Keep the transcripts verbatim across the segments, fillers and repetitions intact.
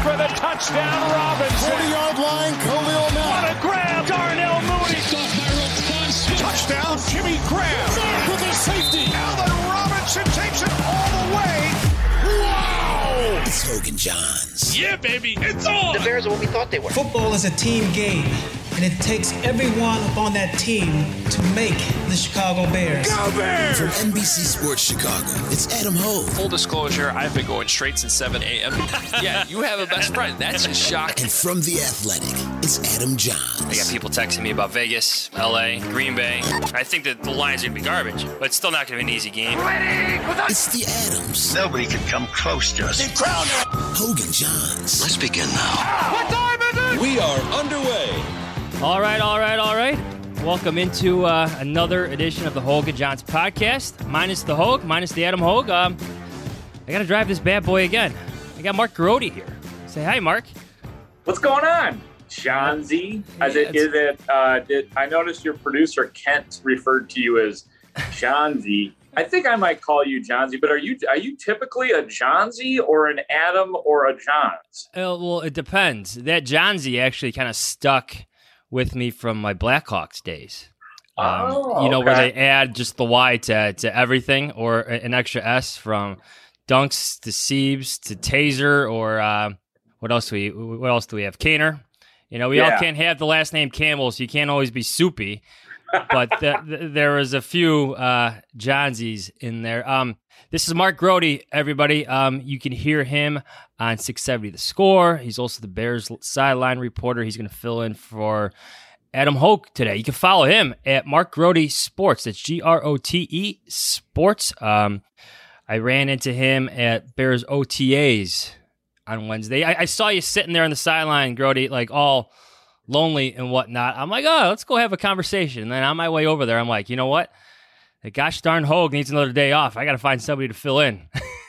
for the touchdown, Robinson. forty-yard line, Khalil Mack. What a grab, Darnell Mooney. Touchdown, Jimmy Graham. Mack with a safety. Allen Robinson takes it all the way. Wow! It's Hogan Johns. Yeah, baby, it's on. The Bears are what we thought they were. Football is a team game, and it takes everyone on that team to make the Chicago Bears. Go Bears! From N B C Sports Chicago, it's Adam Hogue. Full disclosure, I've been going straight since seven a.m. Yeah, you have a best friend. That's a shock. And from The Athletic, it's Adam Johns. I got people texting me about Vegas, L A, Green Bay. I think that the line's going to be garbage, but it's still not going to be an easy game. It's The Adams. Nobody can come close to us. Hogan Johns. Let's begin now. What time is it? We are underway. All right, all right, all right. Welcome into uh, another edition of the Hogan Johns podcast. Minus the Hogue, minus the Adam Hogue. Um, I got to drive this bad boy again. I got Mark Grote here. Say hi, Mark. What's going on, Johnsy? Yeah, Is it? Is it? Uh, did I noticed your producer Kent referred to you as Johnsy? I think I might call you Johnsy, but are you are you typically a Johnsy or an Adam or a Johns? Uh, well, it depends. That Johnsy actually kind of stuck with me from my Blackhawks days. Um, oh, you know, okay. where they add just the Y to, to everything, or an extra S from Dunks to Siebes to Taser, or uh, what else do we what else do we have? Kaner. You know, we Yeah. all can't have the last name Campbell, so you can't always be Soupy. But the, the, there was a few uh, Johnsies in there. Um, this is Mark Grote, everybody. Um, you can hear him on six seventy The Score. He's also the Bears sideline reporter. He's going to fill in for Adam Hogue today. You can follow him at Mark Grote Sports. That's G R O T E Sports. Um, I ran into him at Bears O T As on Wednesday. I, I saw you sitting there on the sideline, Grote, like all lonely and whatnot. I'm like, oh, let's go have a conversation. And then on my way over there, I'm like, you know what? The gosh darn Hogue needs another day off. I got to find somebody to fill in.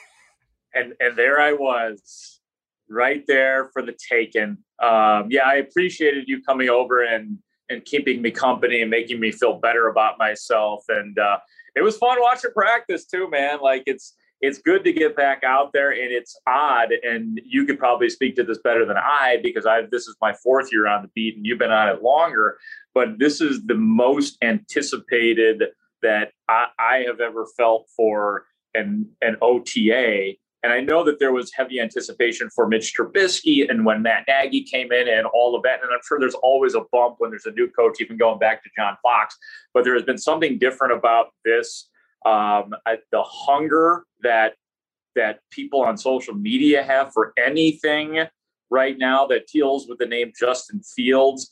And and there I was, right there for the taking. Um, yeah, I appreciated you coming over and and keeping me company and making me feel better about myself. And uh, it was fun watching practice too, man. Like it's it's good to get back out there, and it's odd. And you could probably speak to this better than I, because I this is my fourth year on the beat, and you've been on it longer. But this is the most anticipated that I, I have ever felt for an an O T A. And I know that there was heavy anticipation for Mitch Trubisky and when Matt Nagy came in and all of that. And I'm sure there's always a bump when there's a new coach, even going back to John Fox. But there has been something different about this. Um, I, the hunger that that people on social media have for anything right now that deals with the name Justin Fields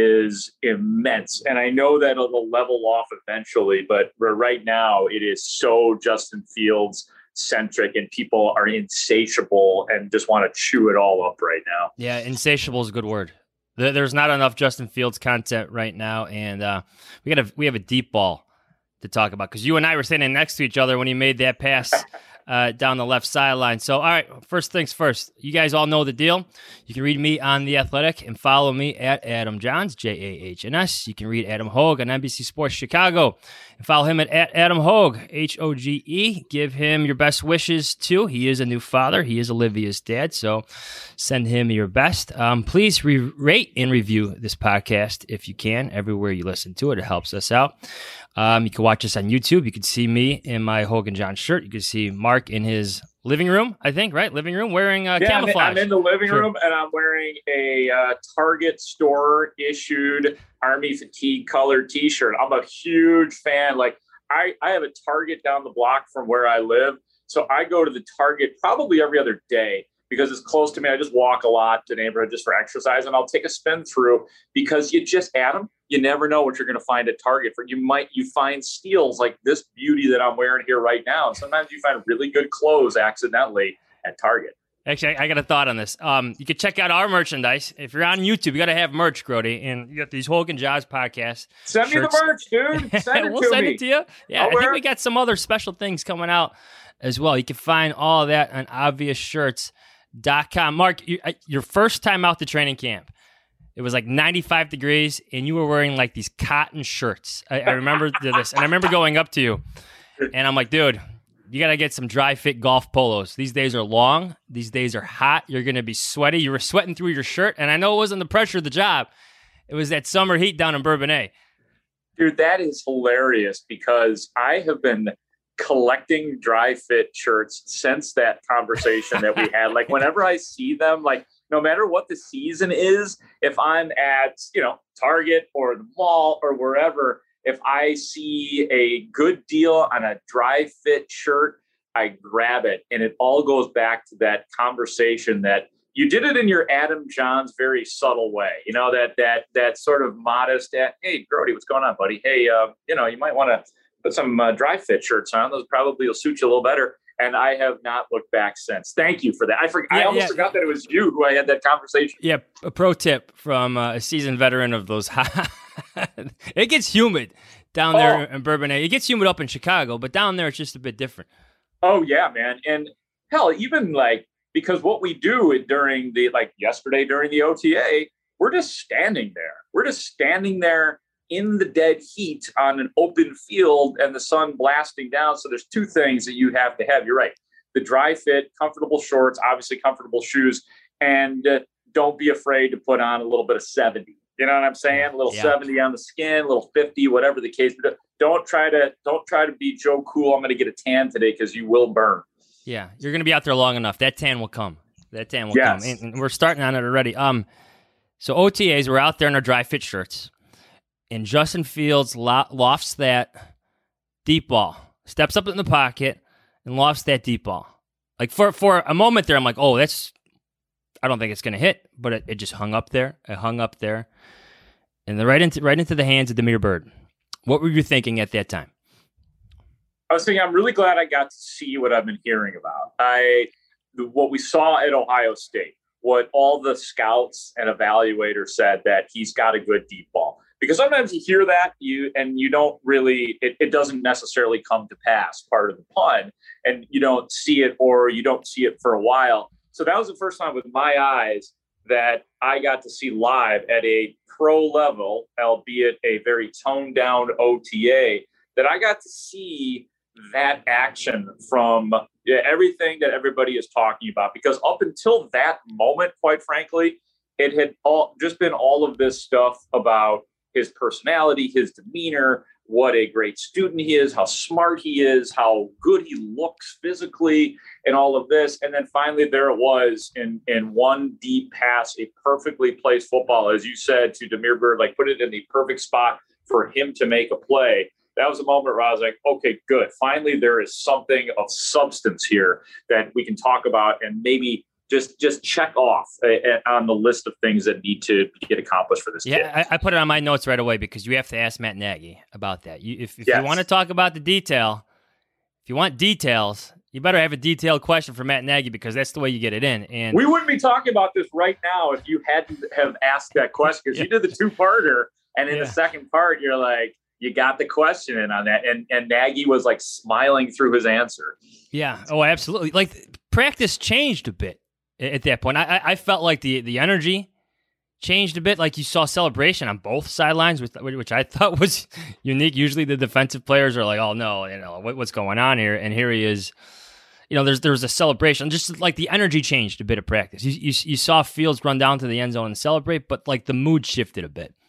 is immense. And I know that it'll level off eventually, but right now it is so Justin Fields centric, and people are insatiable and just want to chew it all up right now. Yeah, insatiable is a good word. There's not enough Justin Fields content right now, and uh, we got a we have a deep ball to talk about, because you and I were standing next to each other when he made that pass uh, down the left sideline. So, all right, first things first. You guys all know the deal. You can read me on The Athletic and follow me at Adam Johns, J A H N S. You can read Adam Hogue on N B C Sports Chicago and follow him at, at Adam Hogue, H O G E. Give him your best wishes, too. He is a new father. He is Olivia's dad, so send him your best. Um, please re- rate and review this podcast if you can, everywhere you listen to it. It helps us out. Um, you can watch us on YouTube. You can see me in my Hogan John shirt. You can see Mark in his living room, I think, right? Living room, wearing uh, yeah, camouflage. I'm in the living Sure. room, and I'm wearing a uh, Target store issued Army fatigue colored T-shirt. I'm a huge fan. Like I, I have a Target down the block from where I live, so I go to the Target probably every other day because it's close to me. I just walk a lot to the neighborhood just for exercise, and I'll take a spin through because you just, Adam, you never know what you're going to find at Target. For you might you find steals like this beauty that I'm wearing here right now, and sometimes you find really good clothes accidentally at Target. Actually, I got a thought on this. Um, you can check out our merchandise. If you're on YouTube, you got to have merch, Grote, and you got these Hogan Johns podcasts. Send shirts. me the merch, dude. Send it we'll to send me. it to you. Yeah, I'll I think wear we it. got some other special things coming out as well. You can find all of that on obvious shirts dot com. Mark, you, uh, your first time out to training camp, it was like ninety-five degrees, and you were wearing like these cotton shirts. I, I remember this, and I remember going up to you, and I'm like, dude, You got to get some dry fit golf polos. These days are long. These days are hot. You're going to be sweaty. You were sweating through your shirt. And I know it wasn't the pressure of the job. It was that summer heat down in Bourbonnais. Dude, that is hilarious because I have been collecting dry fit shirts since that conversation that we had. Like whenever I see them, like no matter what the season is, if I'm at, you know, Target or the mall or wherever, if I see a good deal on a dry fit shirt, I grab it. And it all goes back to that conversation that you did it in your Adam Johns very subtle way. You know, that that that sort of modest, hey, Brody, what's going on, buddy? Hey, uh, you know, you might want to put some uh, dry fit shirts on. Those probably will suit you a little better. And I have not looked back since. Thank you for that. I forgot. Yeah, I almost yeah. forgot that it was you who I had that conversation. Yeah. A pro tip from uh, a seasoned veteran of those. It gets humid down there oh. in Bourbonnais. It gets humid up in Chicago, but down there it's just a bit different. Oh yeah, man. And hell, even like, because what we do during the, like yesterday during the O T A, we're just standing there. We're just standing there in the dead heat on an open field and the sun blasting down. So there's two things that you have to have. You're right. The dry fit, comfortable shorts, obviously comfortable shoes, and uh, don't be afraid to put on a little bit of seventy. You know what I'm saying? A little yeah. seventy on the skin, a little fifty, whatever the case. But don't try to, don't try to be Joe Cool. I'm going to get a tan today because you will burn. Yeah. You're going to be out there long enough. That tan will come. That tan will yes. come. And, and we're starting on it already. Um, So O T As, we're out there in our dry fit shirts. And Justin Fields lofts that deep ball, steps up in the pocket, and lofts that deep ball. Like for, for a moment there, I'm like, oh, that's, I don't think it's going to hit, but it, it just hung up there. It hung up there. And then right into, right into the hands of Damiere Byrd. What were you thinking at that time? I was thinking, I'm really glad I got to see what I've been hearing about. I, what we saw at Ohio State, what all the scouts and evaluators said that he's got a good deep ball. Because sometimes you hear that you and you don't really, it, it doesn't necessarily come to pass, part of the pun, and you don't see it or you don't see it for a while. So that was the first time with my eyes that I got to see live at a pro level, albeit a very toned down O T A, that I got to see that action from yeah, everything that everybody is talking about. Because up until that moment, quite frankly, it had all just been all of this stuff about his personality, his demeanor, what a great student he is, how smart he is, how good he looks physically, and all of this. And then finally there it was in, in one deep pass, a perfectly placed football, as you said, to Damiere Byrd, like put it in the perfect spot for him to make a play. That was a moment where I was like, okay, good. Finally, there is something of substance here that we can talk about and maybe just just check off uh, on the list of things that need to get accomplished for this yeah, kid. Yeah, I, I put it on my notes right away because you have to ask Matt Nagy about that. You, if if yes. you want to talk about the detail, if you want details, you better have a detailed question for Matt Nagy because that's the way you get it in. And we wouldn't be talking about this right now if you hadn't have asked that question because yeah. you did the two-parter, and in yeah. the second part, you're like, you got the question in on that. And and Nagy was like smiling through his answer. Yeah. Oh, absolutely. Like practice changed a bit at that point. I I felt like the, the energy changed a bit. Like you saw celebration on both sidelines, which, which I thought was unique. Usually the defensive players are like, oh no, you know, what, what's going on here? And here he is. You know, there's there was a celebration. Just like the energy changed a bit of practice. You, you you saw Fields run down to the end zone and celebrate, but like the mood shifted a bit.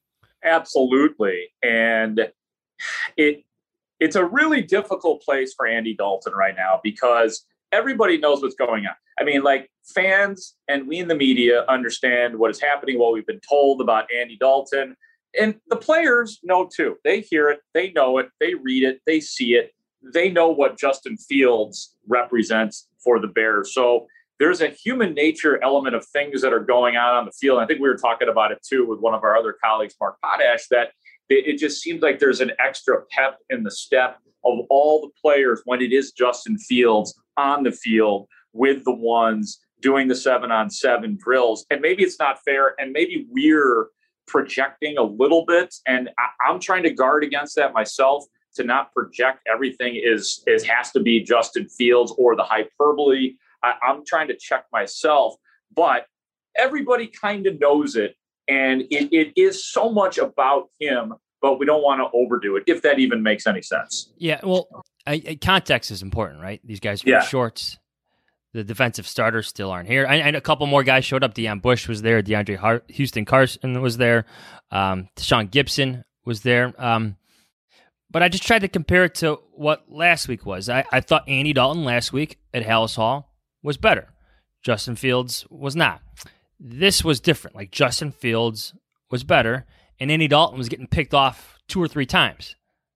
Absolutely. And it it's a really difficult place for Andy Dalton right now because everybody knows what's going on. I mean, like fans and we in the media understand what is happening, what we've been told about Andy Dalton. And the players know too. They hear it, they know it, they read it, they see it. They know what Justin Fields represents for the Bears. So there's a human nature element of things that are going on on the field. And I think we were talking about it too with one of our other colleagues, Mark Potash, that it just seems like there's an extra pep in the step of all the players when it is Justin Fields on the field with the ones doing the seven on seven drills. And maybe it's not fair. And maybe we're projecting a little bit. And I, I'm trying to guard against that myself, to not project everything is, is has to be Justin Fields or the hyperbole. I, I'm trying to check myself, but everybody kind of knows it. And it, it is so much about him, but we don't want to overdo it, if that even makes any sense. Yeah, well, I, I, context is important, right? These guys wear Yeah. shorts. The defensive starters still aren't here. And, and a couple more guys showed up. Deion Bush was there. DeAndre Har- Houston Carson was there. Um, Deshaun Gibson was there. Um, but I just tried to compare it to what last week was. I, I thought Andy Dalton last week at Hallis Hall was better. Justin Fields was not. This was different. Like, Justin Fields was better, and Andy Dalton was getting picked off two or three times.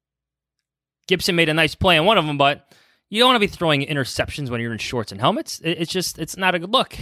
Gibson made a nice play on one of them, but you don't want to be throwing interceptions when you're in shorts and helmets. It's just, it's not a good look.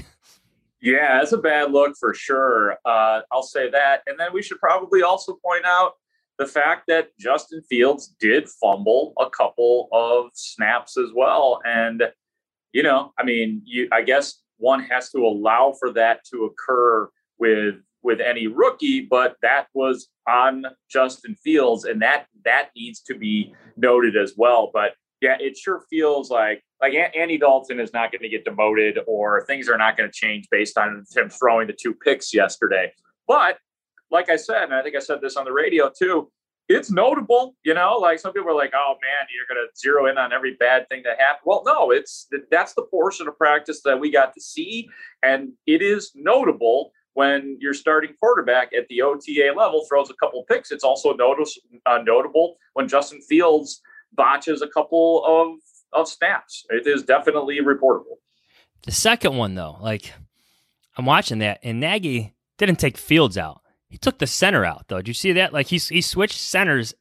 Yeah, it's a bad look for sure. Uh, I'll say that. And then we should probably also point out the fact that Justin Fields did fumble a couple of snaps as well. And, you know, I mean, you, I guess one has to allow for that to occur with with any rookie, but that was on Justin Fields, and that that needs to be noted as well. But yeah, it sure feels like like Andy Dalton is not going to get demoted, or things are not going to change based on him throwing the two picks yesterday. But like I said, and I think I said this on the radio too, it's notable, you know, like some people are like, oh man, you're going to zero in on every bad thing that happened. Well, no, it's that's the portion of practice that we got to see. And it is notable when your starting quarterback at the O T A level throws a couple picks. It's also notice, uh, notable when Justin Fields botches a couple of, of snaps. It is definitely reportable. The second one, though, like, I'm watching that, and Nagy didn't take Fields out. He took the center out, though. Did you see that? Like, he, he switched centers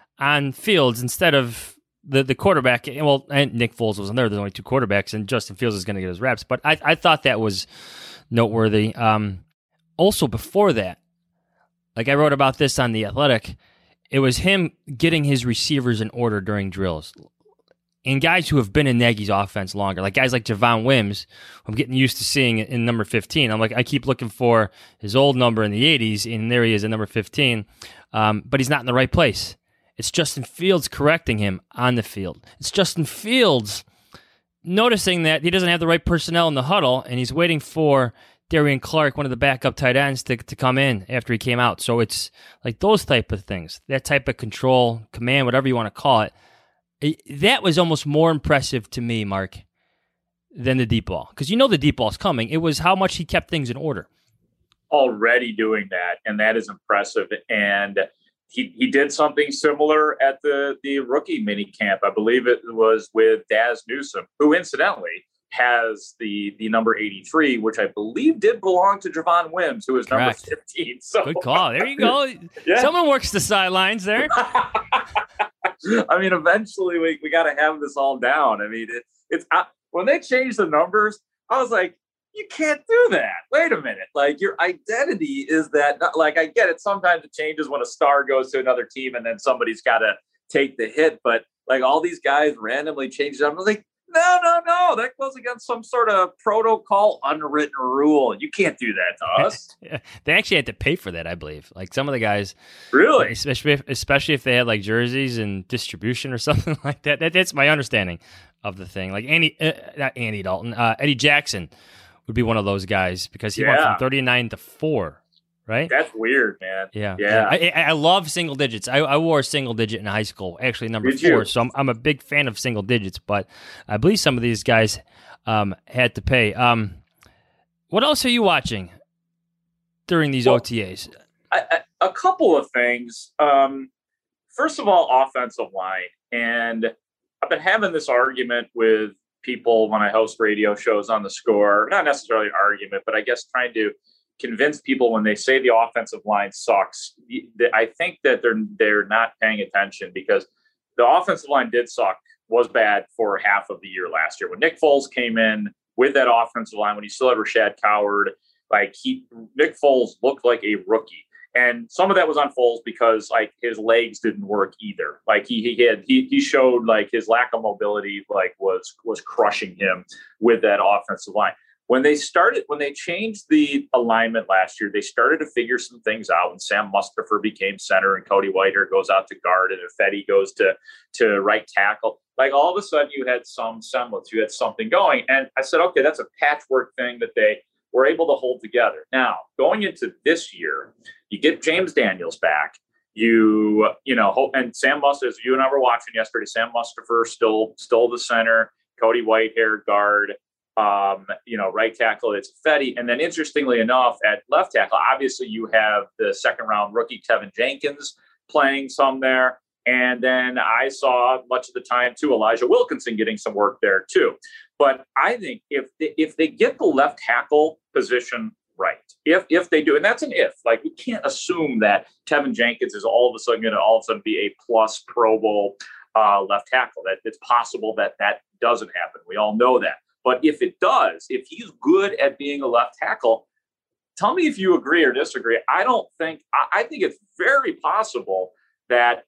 on Fields instead of the, the quarterback. Well, and Nick Foles wasn't there. There's only two quarterbacks, and Justin Fields is going to get his reps. But I, I thought that was noteworthy. Um, also, before that, like I wrote about this on The Athletic, it was him getting his receivers in order during drills. And guys who have been in Nagy's offense longer, like guys like Javon Wims, who I'm getting used to seeing in number fifteen. I'm like, I keep looking for his old number in the eighties, and there he is at number fifteen. Um, but he's not in the right place. It's Justin Fields correcting him on the field. It's Justin Fields noticing that he doesn't have the right personnel in the huddle, and he's waiting for Darian Clark, one of the backup tight ends, to, to come in after he came out. So it's like those type of things, that type of control, command, whatever you want to call it. It, that was almost more impressive to me, Mark, than the deep ball. Because you know the deep ball's coming. It was how much he kept things in order. Already doing that, and that is impressive. And he, he did something similar at the, the rookie mini camp. I believe it was with Daz Newsome, who incidentally has the the number eighty-three, which I believe did belong to Javon Wims, who is Correct. number fifteen. So good call. There you go. Yeah. Someone works the sidelines there. I mean, eventually we, we got to have this all down. I mean, it, it's I, when they changed the numbers, I was like, you can't do that. Wait a minute. Like, your identity is that, not, like, I get it. Sometimes it changes when a star goes to another team and then somebody's got to take the hit. But like all these guys randomly changed it. I'm like, no, no, no. That goes against some sort of protocol, unwritten rule. You can't do that to us. They actually had to pay for that, I believe. Like some of the guys, really, especially if, especially if they had like jerseys and distribution or something like that. that that's my understanding of the thing. Like Andy, uh, not Andy Dalton, uh, Eddie Jackson would be one of those guys because he yeah. went from thirty-nine to four. Right? That's weird, man. Yeah. Yeah. I, I love single digits. I, I wore a single digit in high school, actually number Did four. you? So I'm, I'm a big fan of single digits, but I believe some of these guys um, had to pay. Um, what else are you watching during these well, O T As? I, I, a couple of things. Um, first of all, offensive line. And I've been having this argument with people when I host radio shows on The Score. Not necessarily an argument, but I guess trying to convince people when they say the offensive line sucks. I think that they're they're not paying attention because the offensive line did suck, was bad for half of the year last year. When Nick Foles came in with that offensive line, when he still had Rashad Coward, like he Nick Foles looked like a rookie. And some of that was on Foles because like his legs didn't work either. Like he he had he he showed like his lack of mobility like was was crushing him with that offensive line. When they started, when they changed the alignment last year, they started to figure some things out. When Sam Mustipher became center and Cody Whitehair goes out to guard and Ifedi goes to, to right tackle, like all of a sudden you had some semblance, you had something going. And I said, okay, that's a patchwork thing that they were able to hold together. Now, going into this year, you get James Daniels back. You, you know, hope, and Sam Must, as you and I were watching yesterday, Sam Mustipher still, still the center, Cody Whitehair guard, um, you know, right tackle, it's Fetty. And then interestingly enough, at left tackle, obviously you have the second round rookie Tevin Jenkins playing some there. And then I saw much of the time too, Elijah Wilkinson getting some work there too. But I think if they, if they get the left tackle position right, if if they do, and that's an if, like we can't assume that Tevin Jenkins is all of a sudden going to all of a sudden be a plus Pro Bowl uh, left tackle. That it's possible that that doesn't happen. We all know that. But if it does, if he's good at being a left tackle, tell me if you agree or disagree. I don't think, I, I think it's very possible that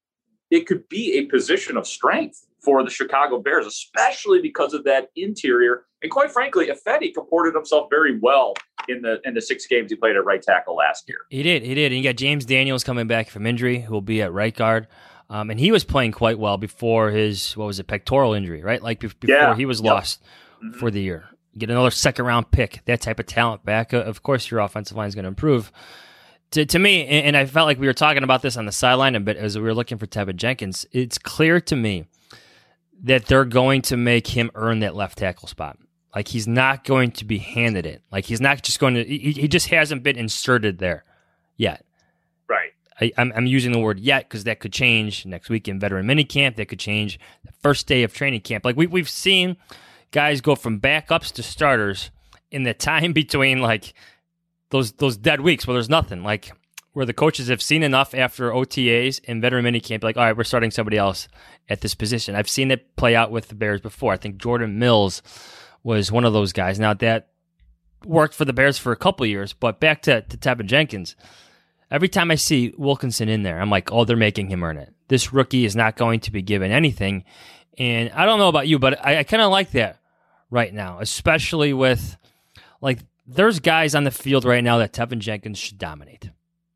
it could be a position of strength for the Chicago Bears, especially because of that interior. And quite frankly, Ifedi comported himself very well in the in the six games he played at right tackle last year. He did, he did. And you got James Daniels coming back from injury, who will be at right guard. Um, and he was playing quite well before his, what was it, pectoral injury, right? Like before yeah. he was yep. lost mm-hmm. for the year. Get another second round pick, that type of talent back. Uh, of course, your offensive line is going to improve. To, to me, and, and I felt like we were talking about this on the sideline a bit as we were looking for Tevin Jenkins, it's clear to me that they're going to make him earn that left tackle spot. Like he's not going to be handed it. Like he's not just going to, he, he just hasn't been inserted there yet. Right. I, I'm, I'm using the word yet because that could change next week in veteran minicamp. That could change the first day of training camp. Like we, we've seen guys go from backups to starters in the time between like those those dead weeks where there's nothing. Like where the coaches have seen enough after O T As and veteran minicamp, like, all right, we're starting somebody else at this position. I've seen it play out with the Bears before. I think Jordan Mills was one of those guys. Now, that worked for the Bears for a couple of years, but back to, to Tevin Jenkins, every time I see Wilkinson in there, I'm like, oh, they're making him earn it. This rookie is not going to be given anything. And I don't know about you, but I, I kind of like that right now, especially with, like, there's guys on the field right now that Tevin Jenkins should dominate.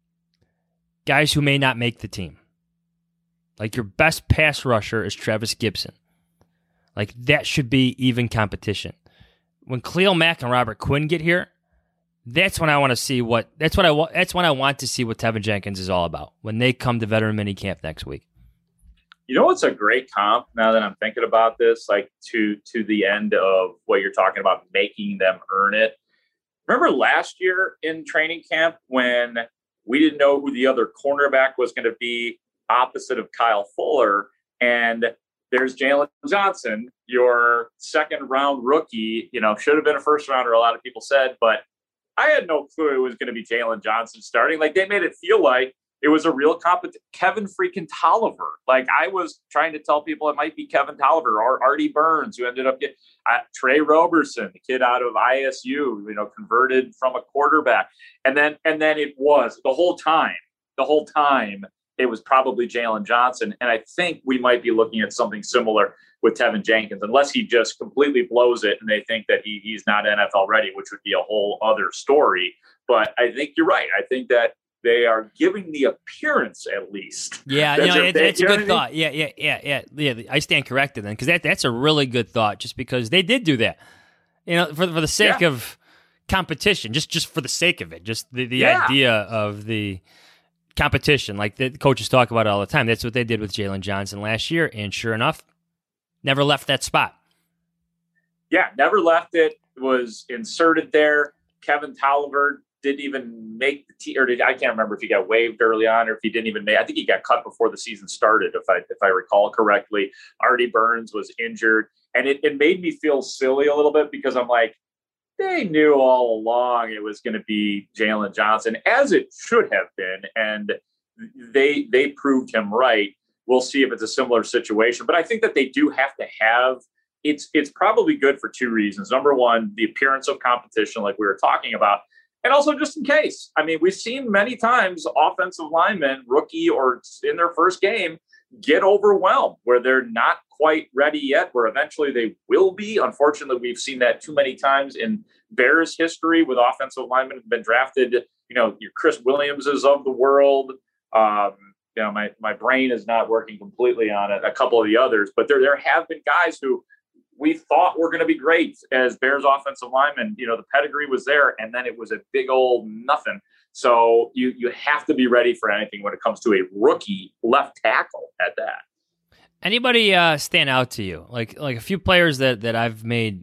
Guys who may not make the team. Like, your best pass rusher is Travis Gibson. Like, that should be even competition. When Khalil Mack and Robert Quinn get here, that's when I want to see what that's what I want. That's when I want to see what Tevin Jenkins is all about when they come to veteran minicamp next week. You know what's a great comp now that I'm thinking about this, like to to the end of what you're talking about, making them earn it. Remember last year in training camp when we didn't know who the other cornerback was going to be opposite of Kyle Fuller, and there's Jalen Johnson, your second round rookie, you know, should have been a first rounder, a lot of people said, but I had no clue it was going to be Jalen Johnson starting. Like, they made it feel like it was a real competition. Kevin freaking Tolliver. Like, I was trying to tell people it might be Kevin Tolliver or Artie Burns, who ended up getting uh, Trey Roberson, the kid out of I S U, you know, converted from a quarterback. And then, and then it was the whole time, the whole time it was probably Jalen Johnson. And I think we might be looking at something similar with Tevin Jenkins, unless he just completely blows it and they think that he he's not N F L ready, which would be a whole other story. But I think you're right. I think that they are giving the appearance, at least. Yeah, you know, it, it's a good thought. Yeah, yeah, yeah, yeah, yeah. I stand corrected then, because that that's a really good thought. Just because they did do that, you know, for for the sake yeah. of competition, just just for the sake of it, just the the yeah. idea of the competition, like the coaches talk about it all the time. That's what they did with Jalen Johnson last year, and sure enough, never left that spot. Yeah, never left it. Was inserted there. Kevin Tolliver didn't even make the team, or did, I can't remember if he got waived early on or if he didn't even make. I think he got cut before the season started, if I if I recall correctly. Artie Burns was injured, and it, it made me feel silly a little bit because I'm like, they knew all along it was going to be Jalen Johnson, as it should have been, and they they proved him right. We'll see if it's a similar situation, but I think that they do have to have. It's it's probably good for two reasons. Number one, the appearance of competition, like we were talking about. And also just in case. I mean, we've seen many times offensive linemen, rookie or in their first game, get overwhelmed where they're not quite ready yet, where eventually they will be. Unfortunately, we've seen that too many times in Bears history with offensive linemen who've been drafted, you know, your Chris Williamses of the world. Um, you know, my, my brain is not working completely on it. A couple of the others, but there, there have been guys who we thought were going to be great as Bears offensive linemen. You know, the pedigree was there, and then it was a big old nothing. So you you have to be ready for anything when it comes to a rookie left tackle at that. Anybody uh, stand out to you? Like like a few players that, that I've made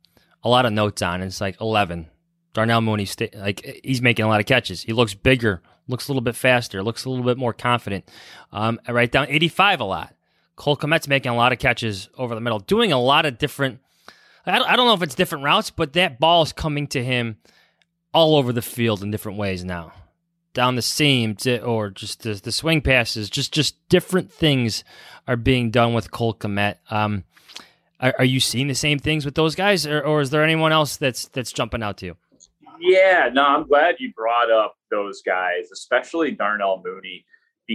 a lot of notes on. It's like eleven. Darnell Mooney, sta- like he's making a lot of catches. He looks bigger, looks a little bit faster, looks a little bit more confident. Um, I write down eighty-five a lot. Cole Kmet's making a lot of catches over the middle, doing a lot of different. I don't, I don't know if it's different routes, but that ball is coming to him all over the field in different ways now. Down the seam to, or just the, the swing passes, just just different things are being done with Cole Kmet. Um, are, are you seeing the same things with those guys, or, or is there anyone else that's that's jumping out to you? Yeah, no, I'm glad you brought up those guys, especially Darnell Mooney,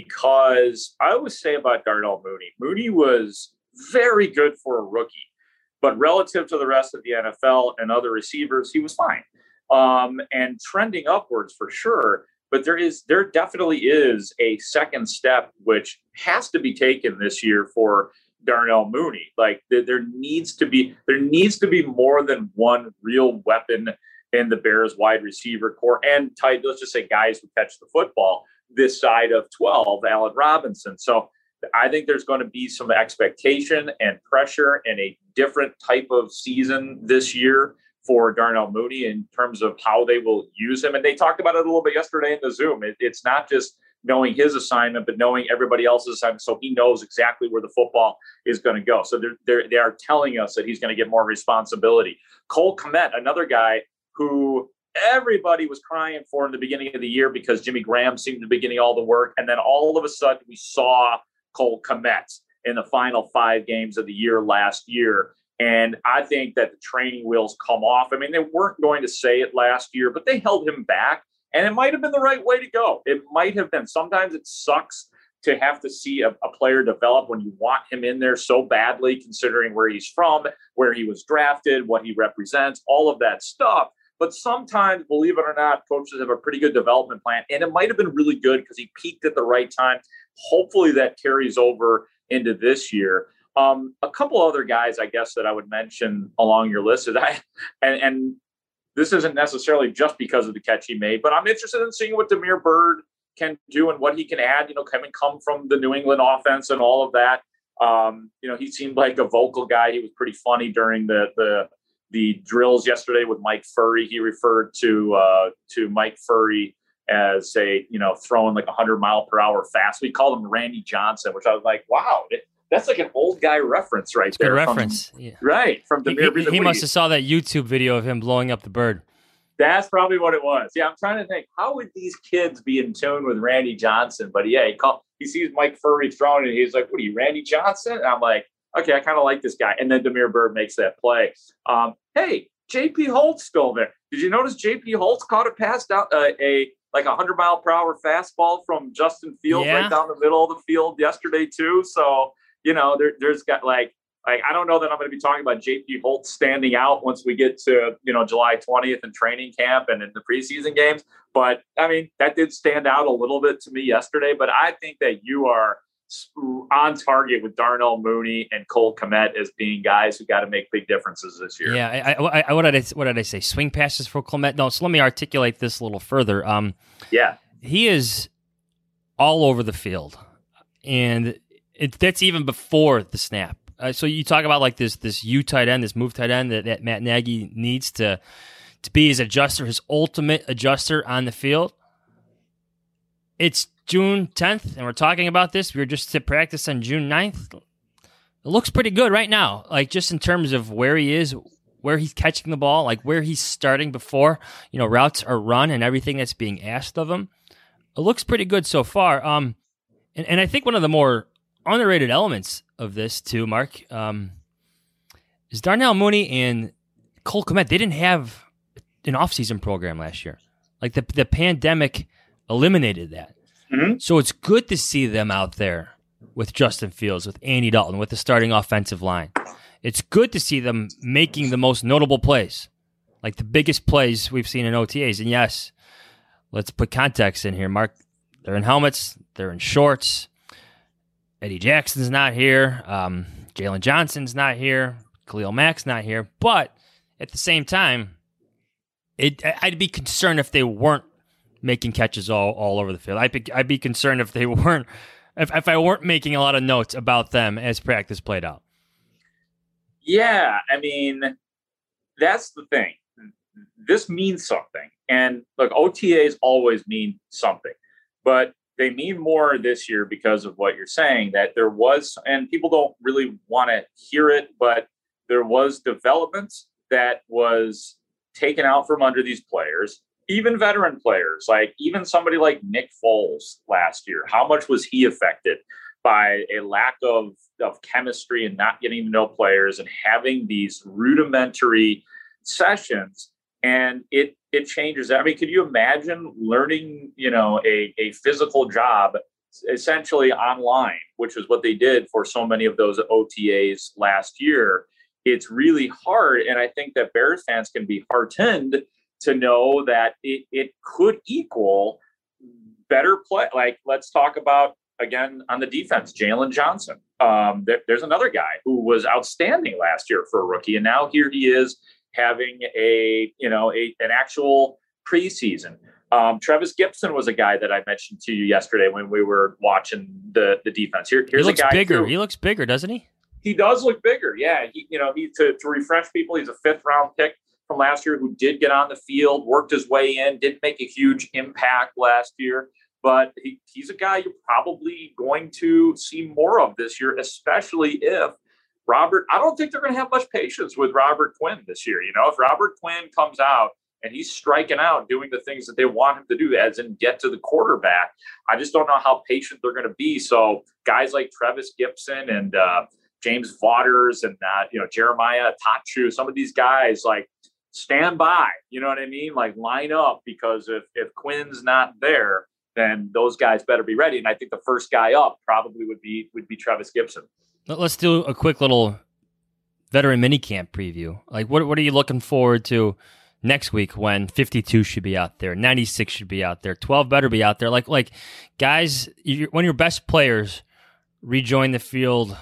because I always say about Darnell Mooney, Mooney was very good for a rookie, but relative to the rest of the N F L and other receivers, he was fine. Um, and trending upwards for sure. But there is, there definitely is a second step which has to be taken this year for Darnell Mooney. Like there, there needs to be, there needs to be more than one real weapon in the Bears wide receiver core and tight, let's just say guys who catch the football this side of twelve, Allen Robinson. So I think there's going to be some expectation and pressure and a different type of season this year for Darnell Mooney in terms of how they will use him. And they talked about it a little bit yesterday in the Zoom. It, it's not just knowing his assignment, but knowing everybody else's assignment. So he knows exactly where the football is going to go. So they're, they're, they are telling us that he's going to get more responsibility. Cole Kmet, another guy who everybody was crying for in the beginning of the year because Jimmy Graham seemed to be getting all the work. And then all of a sudden we saw Cole Kmet in the final five games of the year last year. And I think that the training wheels come off. I mean, they weren't going to say it last year, but they held him back. And it might have been the right way to go. It might have been. Sometimes it sucks to have to see a, a player develop when you want him in there so badly, considering where he's from, where he was drafted, what he represents, all of that stuff. But sometimes, believe it or not, coaches have a pretty good development plan. And it might have been really good because he peaked at the right time. Hopefully that carries over into this year. Um, a couple other guys, I guess, that I would mention along your list is I, and, and this isn't necessarily just because of the catch he made, but I'm interested in seeing what Damiere Byrd can do and what he can add, you know, coming come from the New England offense and all of that. Um, you know, he seemed like a vocal guy. He was pretty funny during the, the, the drills yesterday with Mike Furry. He referred to, uh, to Mike Furry as a, you know, throwing like a hundred mile per hour fast. We called him Randy Johnson, which I was like, wow, it, that's like an old guy reference right there. Good reference. From, yeah. Right. From the He, he, he must have saw that YouTube video of him blowing up the bird. That's probably what it was. Yeah, I'm trying to think, how would these kids be in tune with Randy Johnson? But yeah, he called, he sees Mike Furry throwing and he's like, what are you, Randy Johnson? And I'm like, okay, I kind of like this guy. And then Damiere Byrd makes that play. Um, hey, J P Holt's still there. Did you notice J P Holtz caught a pass down uh, a like a hundred mile per hour fastball from Justin Fields yeah. right down the middle of the field yesterday too? So, you know, there, there's got like, like, I don't know that I'm going to be talking about J P Holtz standing out once we get to, you know, July twentieth in training camp and in the preseason games. But I mean, that did stand out a little bit to me yesterday, but I think that you are on target with Darnell Mooney and Cole Kmet as being guys who got to make big differences this year. Yeah. I, I, I, what did I, what did I say? Swing passes for Kmet? No. So let me articulate this a little further. Um, yeah, he is all over the field, and it, that's even before the snap. Uh, so you talk about like this this U tight end, this move tight end that, that Matt Nagy needs to to be his adjuster, his ultimate adjuster on the field. It's June tenth, and we're talking about this. We were just to practice on June ninth. It looks pretty good right now, like just in terms of where he is, where he's catching the ball, like where he's starting before, you know, routes are run and everything that's being asked of him. It looks pretty good so far. Um, and, and I think one of the more underrated elements of this too, Mark, um, is Darnell Mooney and Cole Kmet. They didn't have an offseason program last year. Like the the pandemic eliminated that. Mm-hmm. So it's good to see them out there with Justin Fields, with Andy Dalton, with the starting offensive line. It's good to see them making the most notable plays, like the biggest plays we've seen in O T As. And yes, let's put context in here, Mark. They're in helmets. They're in shorts. Eddie Jackson's not here. Um, Jalen Johnson's not here. Khalil Mack's not here. But at the same time, it, I'd be concerned if they weren't making catches all, all over the field. I'd be, I'd be concerned if they weren't, if, if I weren't making a lot of notes about them as practice played out. Yeah, I mean, that's the thing. This means something. And look, O T As always mean something, but they mean more this year because of what you're saying, that there was, and people don't really want to hear it, but there was development that was taken out from under these players, even veteran players, like even somebody like Nick Foles last year. How much was he affected by a lack of, of chemistry and not getting to know players and having these rudimentary sessions? And it it changes. I mean, could you imagine learning, you know, a, a physical job essentially online, which is what they did for so many of those O T As last year? It's really hard. And I think that Bears fans can be heartened to know that it, it could equal better play. Like, let's talk about, again, on the defense, Jalen Johnson. Um, there, there's another guy who was outstanding last year for a rookie. And now here he is, having a, you know, a, an actual preseason. Um, Travis Gibson was a guy that I mentioned to you yesterday when we were watching the, the defense. Here, here's he looks a guy bigger. Who, he looks bigger, doesn't he? He does look bigger. Yeah. He, you know, he, to, to refresh people, he's a fifth round pick from last year who did get on the field, worked his way in, didn't make a huge impact last year, but he, he's a guy you're probably going to see more of this year, especially if Robert, I don't think they're going to have much patience with Robert Quinn this year. You know, if Robert Quinn comes out and he's striking out, doing the things that they want him to do, as in get to the quarterback, I just don't know how patient they're going to be. So guys like Travis Gibson and uh, James Vaughters and, uh, you know, Jeremiah Tachu, some of these guys, like, stand by, you know what I mean? Like, line up, because if, if Quinn's not there, then those guys better be ready. And I think the first guy up probably would be, would be Travis Gibson. Let's do a quick little veteran minicamp preview. Like, what what are you looking forward to next week when fifty-two should be out there, ninety-six should be out there, twelve better be out there? Like, like guys, when your best players rejoin the field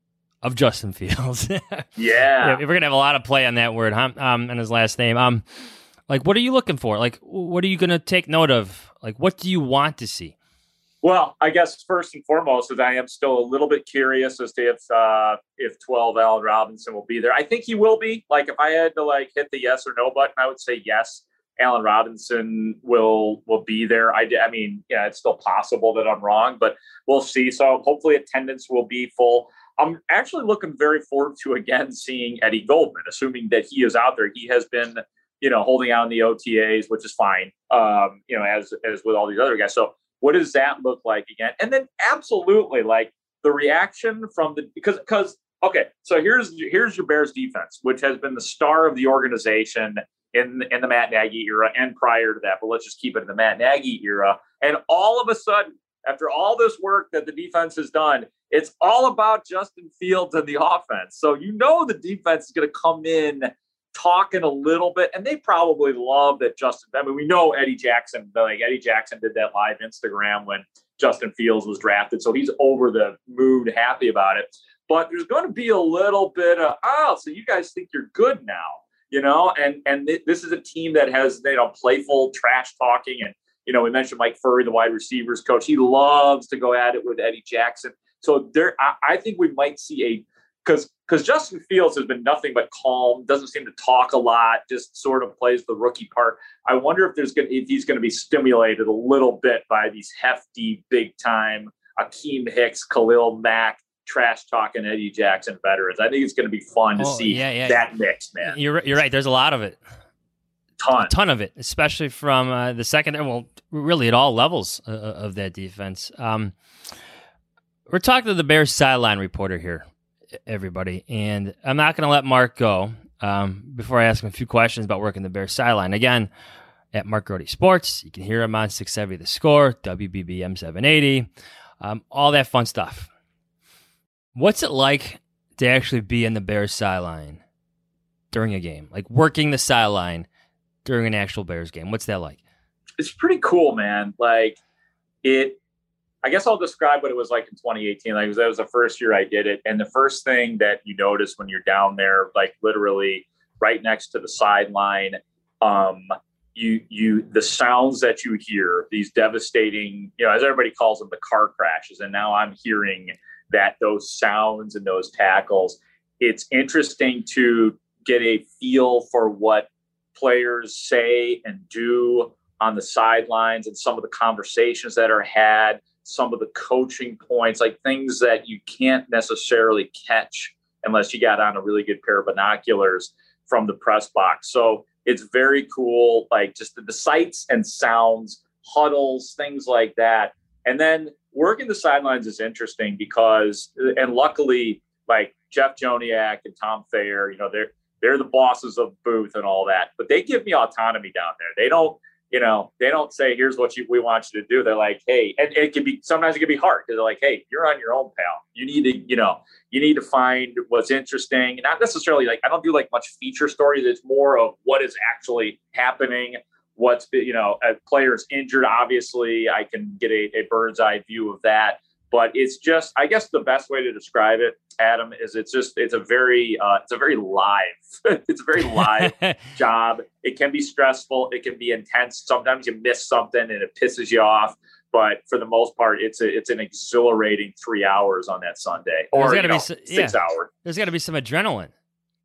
of Justin Fields. Yeah. yeah. We're going to have a lot of play on that word, huh? Um, and his last name. Um, like, what are you looking for? Like, what are you going to take note of? Like, what do you want to see? Well, I guess first and foremost is I am still a little bit curious as to if uh, if twelve Allen Robinson will be there. I think he will be. Like, if I had to like hit the yes or no button, I would say yes. Allen Robinson will will be there. I, I mean, yeah, it's still possible that I'm wrong, but we'll see. So hopefully attendance will be full. I'm actually looking very forward to, again, seeing Eddie Goldman, assuming that he is out there. He has been, you know, holding out in the O T As, which is fine, um, you know, as as with all these other guys. So what does that look like again? And then absolutely, like, the reaction from the, because, because, okay, so here's, here's your Bears defense, which has been the star of the organization in, in the Matt Nagy era and prior to that, but let's just keep it in the Matt Nagy era. And all of a sudden, after all this work that the defense has done, it's all about Justin Fields and the offense. So, you know, the defense is going to come in talking a little bit, and they probably love that Justin. I mean, we know Eddie Jackson, like Eddie Jackson did that live Instagram when Justin Fields was drafted. So he's over the moon, happy about it. But there's going to be a little bit of, oh, so you guys think you're good now, you know? And and th- this is a team that has, you know, playful trash talking. And, you know, we mentioned Mike Furry, the wide receivers coach. He loves to go at it with Eddie Jackson. So there, I, I think we might see a, because because Justin Fields has been nothing but calm, doesn't seem to talk a lot, just sort of plays the rookie part. I wonder if there's going if he's going to be stimulated a little bit by these hefty, big time Akeem Hicks, Khalil Mack, trash talking Eddie Jackson veterans. I think it's going to be fun to oh, see yeah, yeah, that yeah. mix, man. You're you're right. There's a lot of it. Ton. A ton of it, especially from uh, the second, well, really at all levels uh, of that defense. Um, we're talking to the Bears sideline reporter here, everybody, and I'm not going to let Mark go um, before I ask him a few questions about working the Bears sideline. Again, at Mark Grote Sports, you can hear him on six seventy The Score, W B B M seven eighty, um, all that fun stuff. What's it like to actually be in the Bears sideline during a game, like working the sideline during an actual Bears game? What's that like? It's pretty cool, man. Like, it, I guess I'll describe what it was like in twenty eighteen. Like, that was the first year I did it. And the first thing that you notice when you're down there, like literally right next to the sideline, um, you, you, the sounds that you hear, these devastating, you know, as everybody calls them, the car crashes. And now I'm hearing that those sounds and those tackles, it's interesting to get a feel for what players say and do on the sidelines and some of the conversations that are had, some of the coaching points, like things that you can't necessarily catch unless you got on a really good pair of binoculars from the press box. So it's very cool, like just the, the sights and sounds, huddles, things like that. And then working the sidelines is interesting because, and luckily, like Jeff Joniak and Tom Thayer, you know, they're they're the bosses of booth and all that, but they give me autonomy down there. They don't, you know, they don't say, here's what you, we want you to do. They're like, hey, and it can be, sometimes it can be hard because they're like, hey, you're on your own, pal. You need to, you know, you need to find what's interesting. Not necessarily like, I don't do like much feature stories. It's more of what is actually happening. What's, you know, a player's injured, obviously I can get a, a bird's eye view of that. But it's just, I guess the best way to describe it, Adam, is it's just, it's a very, uh, it's a very live, it's a very live job. It can be stressful. It can be intense. Sometimes you miss something and it pisses you off. But for the most part, it's a, it's an exhilarating three hours on that Sunday, or you know, be, six yeah. hours. There's got to be some adrenaline. In,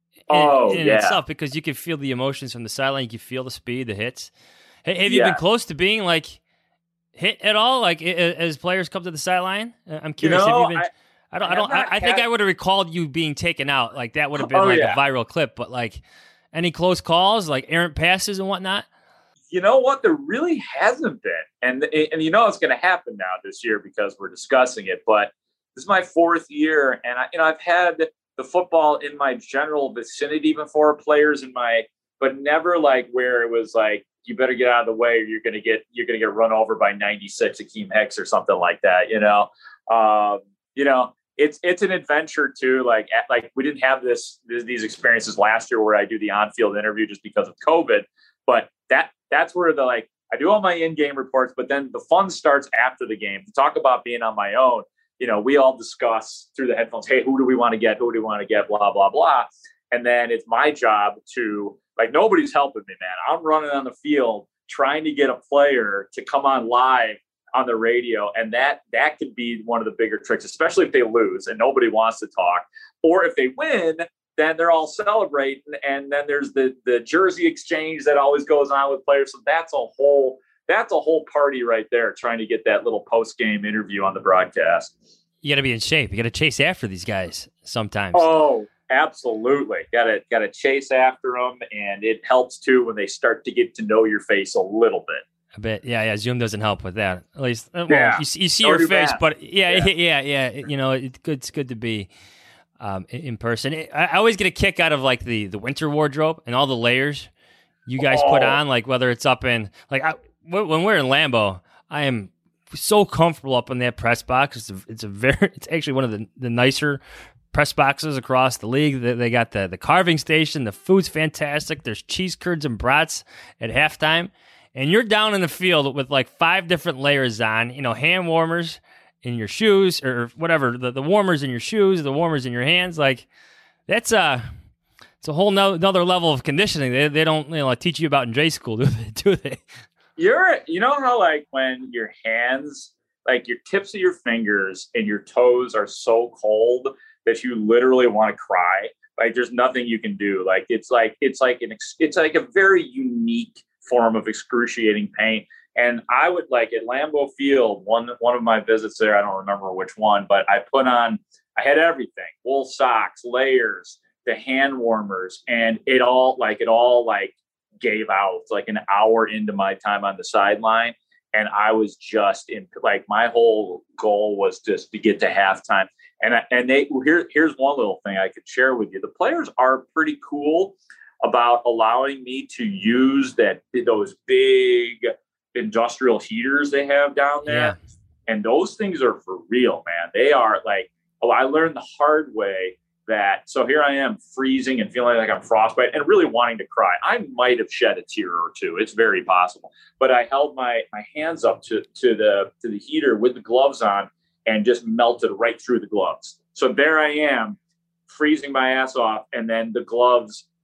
oh, in yeah. itself, because you can feel the emotions from the sideline. You can feel the speed, the hits. Hey, have you yeah. been close to being like hit at all? Like as players come to the sideline? I'm curious. You know, have you been, I, I don't. I don't. I, I think I would have recalled you being taken out. Like that would have been oh, like yeah. a viral clip. But like any close calls, like errant passes and whatnot. You know what? There really hasn't been, and and you know it's going to happen now this year because we're discussing it. But this is my fourth year, and I, you know I've had the football in my general vicinity before, players in my, but never like where it was like, you better get out of the way or you're going to get, you're going to get run over by ninety-six Akeem Hicks or something like that. You know, um, you know, it's, it's an adventure too. Like, at, like we didn't have this, this, these experiences last year where I do the on-field interview just because of COVID, but that, that's where the, like, I do all my in-game reports, but then the fun starts after the game to talk about being on my own. You know, we all discuss through the headphones, hey, who do we want to get? Who do we want to get? Blah, blah, blah. And then it's my job to, like, nobody's helping me, man. I'm running on the field trying to get a player to come on live on the radio. And that that could be one of the bigger tricks, especially if they lose and nobody wants to talk. Or if they win, then they're all celebrating. And then there's the the jersey exchange that always goes on with players. So that's a whole that's a whole party right there, trying to get that little post-game interview on the broadcast. You got to be in shape. You got to chase after these guys sometimes. Oh, absolutely. Got to got to chase after them, and it helps too when they start to get to know your face a little bit. A bit, yeah, yeah. Zoom doesn't help with that. At least, well, yeah. you, you see Nor your face, bad. but yeah, Yeah. yeah, yeah. yeah. You know, it's good. It's good to be um, in in person. I, I always get a kick out of like the the winter wardrobe and all the layers you guys Oh. put on. Like whether it's up in like I, when we're in Lambeau, I am so comfortable up in that press box. It's a, it's a very, it's actually one of the, the nicer press boxes across the league. They, they got the, the carving station. The food's fantastic. There's cheese curds and brats at halftime. And you're down in the field with like five different layers on, you know, hand warmers in your shoes or whatever, the, the warmers in your shoes, the warmers in your hands. Like that's a, it's a whole no, another level of conditioning. They, they don't, you know, teach you about in J school, do they? Do they? You're, you know how like when your hands, like your tips of your fingers and your toes are so cold that you literally want to cry. Like there's nothing you can do. Like it's like it's like an it's like a very unique form of excruciating pain. And I would like at Lambeau Field, one one of my visits there, I don't remember which one, but I put on, I had everything: wool socks, layers, the hand warmers, and it all like it all like. gave out like an hour into my time on the sideline. And I was just in like, my whole goal was just to get to halftime. And, I, and they, here, here's one little thing I could share with you. The players are pretty cool about allowing me to use that, those big industrial heaters they have down there. Yeah. And those things are for real, man. They are like, oh, I learned the hard way that, so here I am freezing and feeling like I'm frostbite and really wanting to cry. I might have shed a tear or two. It's very possible, but I held my, my hands up to, to the, to the heater with the gloves on and just melted right through the gloves. So there I am freezing my ass off. And then the gloves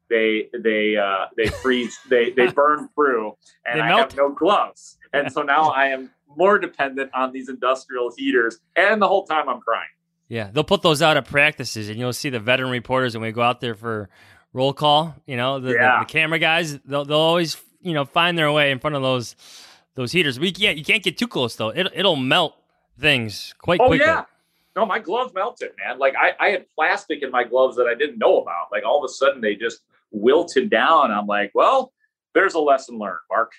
they they uh, they freeze, they they burn through, and They I melt? have no gloves, and so now I am more dependent on these industrial heaters, and the whole time I'm crying. Yeah, they'll put those out at practices, and you'll see the veteran reporters when we go out there for roll call. You know, the, Yeah. the, the camera guys, they'll they'll always you know find their way in front of those those heaters. We can't you can't get too close though. It it'll melt things quite Oh quickly. yeah. No, my gloves melted, man. Like I, I had plastic in my gloves that I didn't know about. Like all of a sudden they just wilted down. I'm like, well, there's a lesson learned, Mark.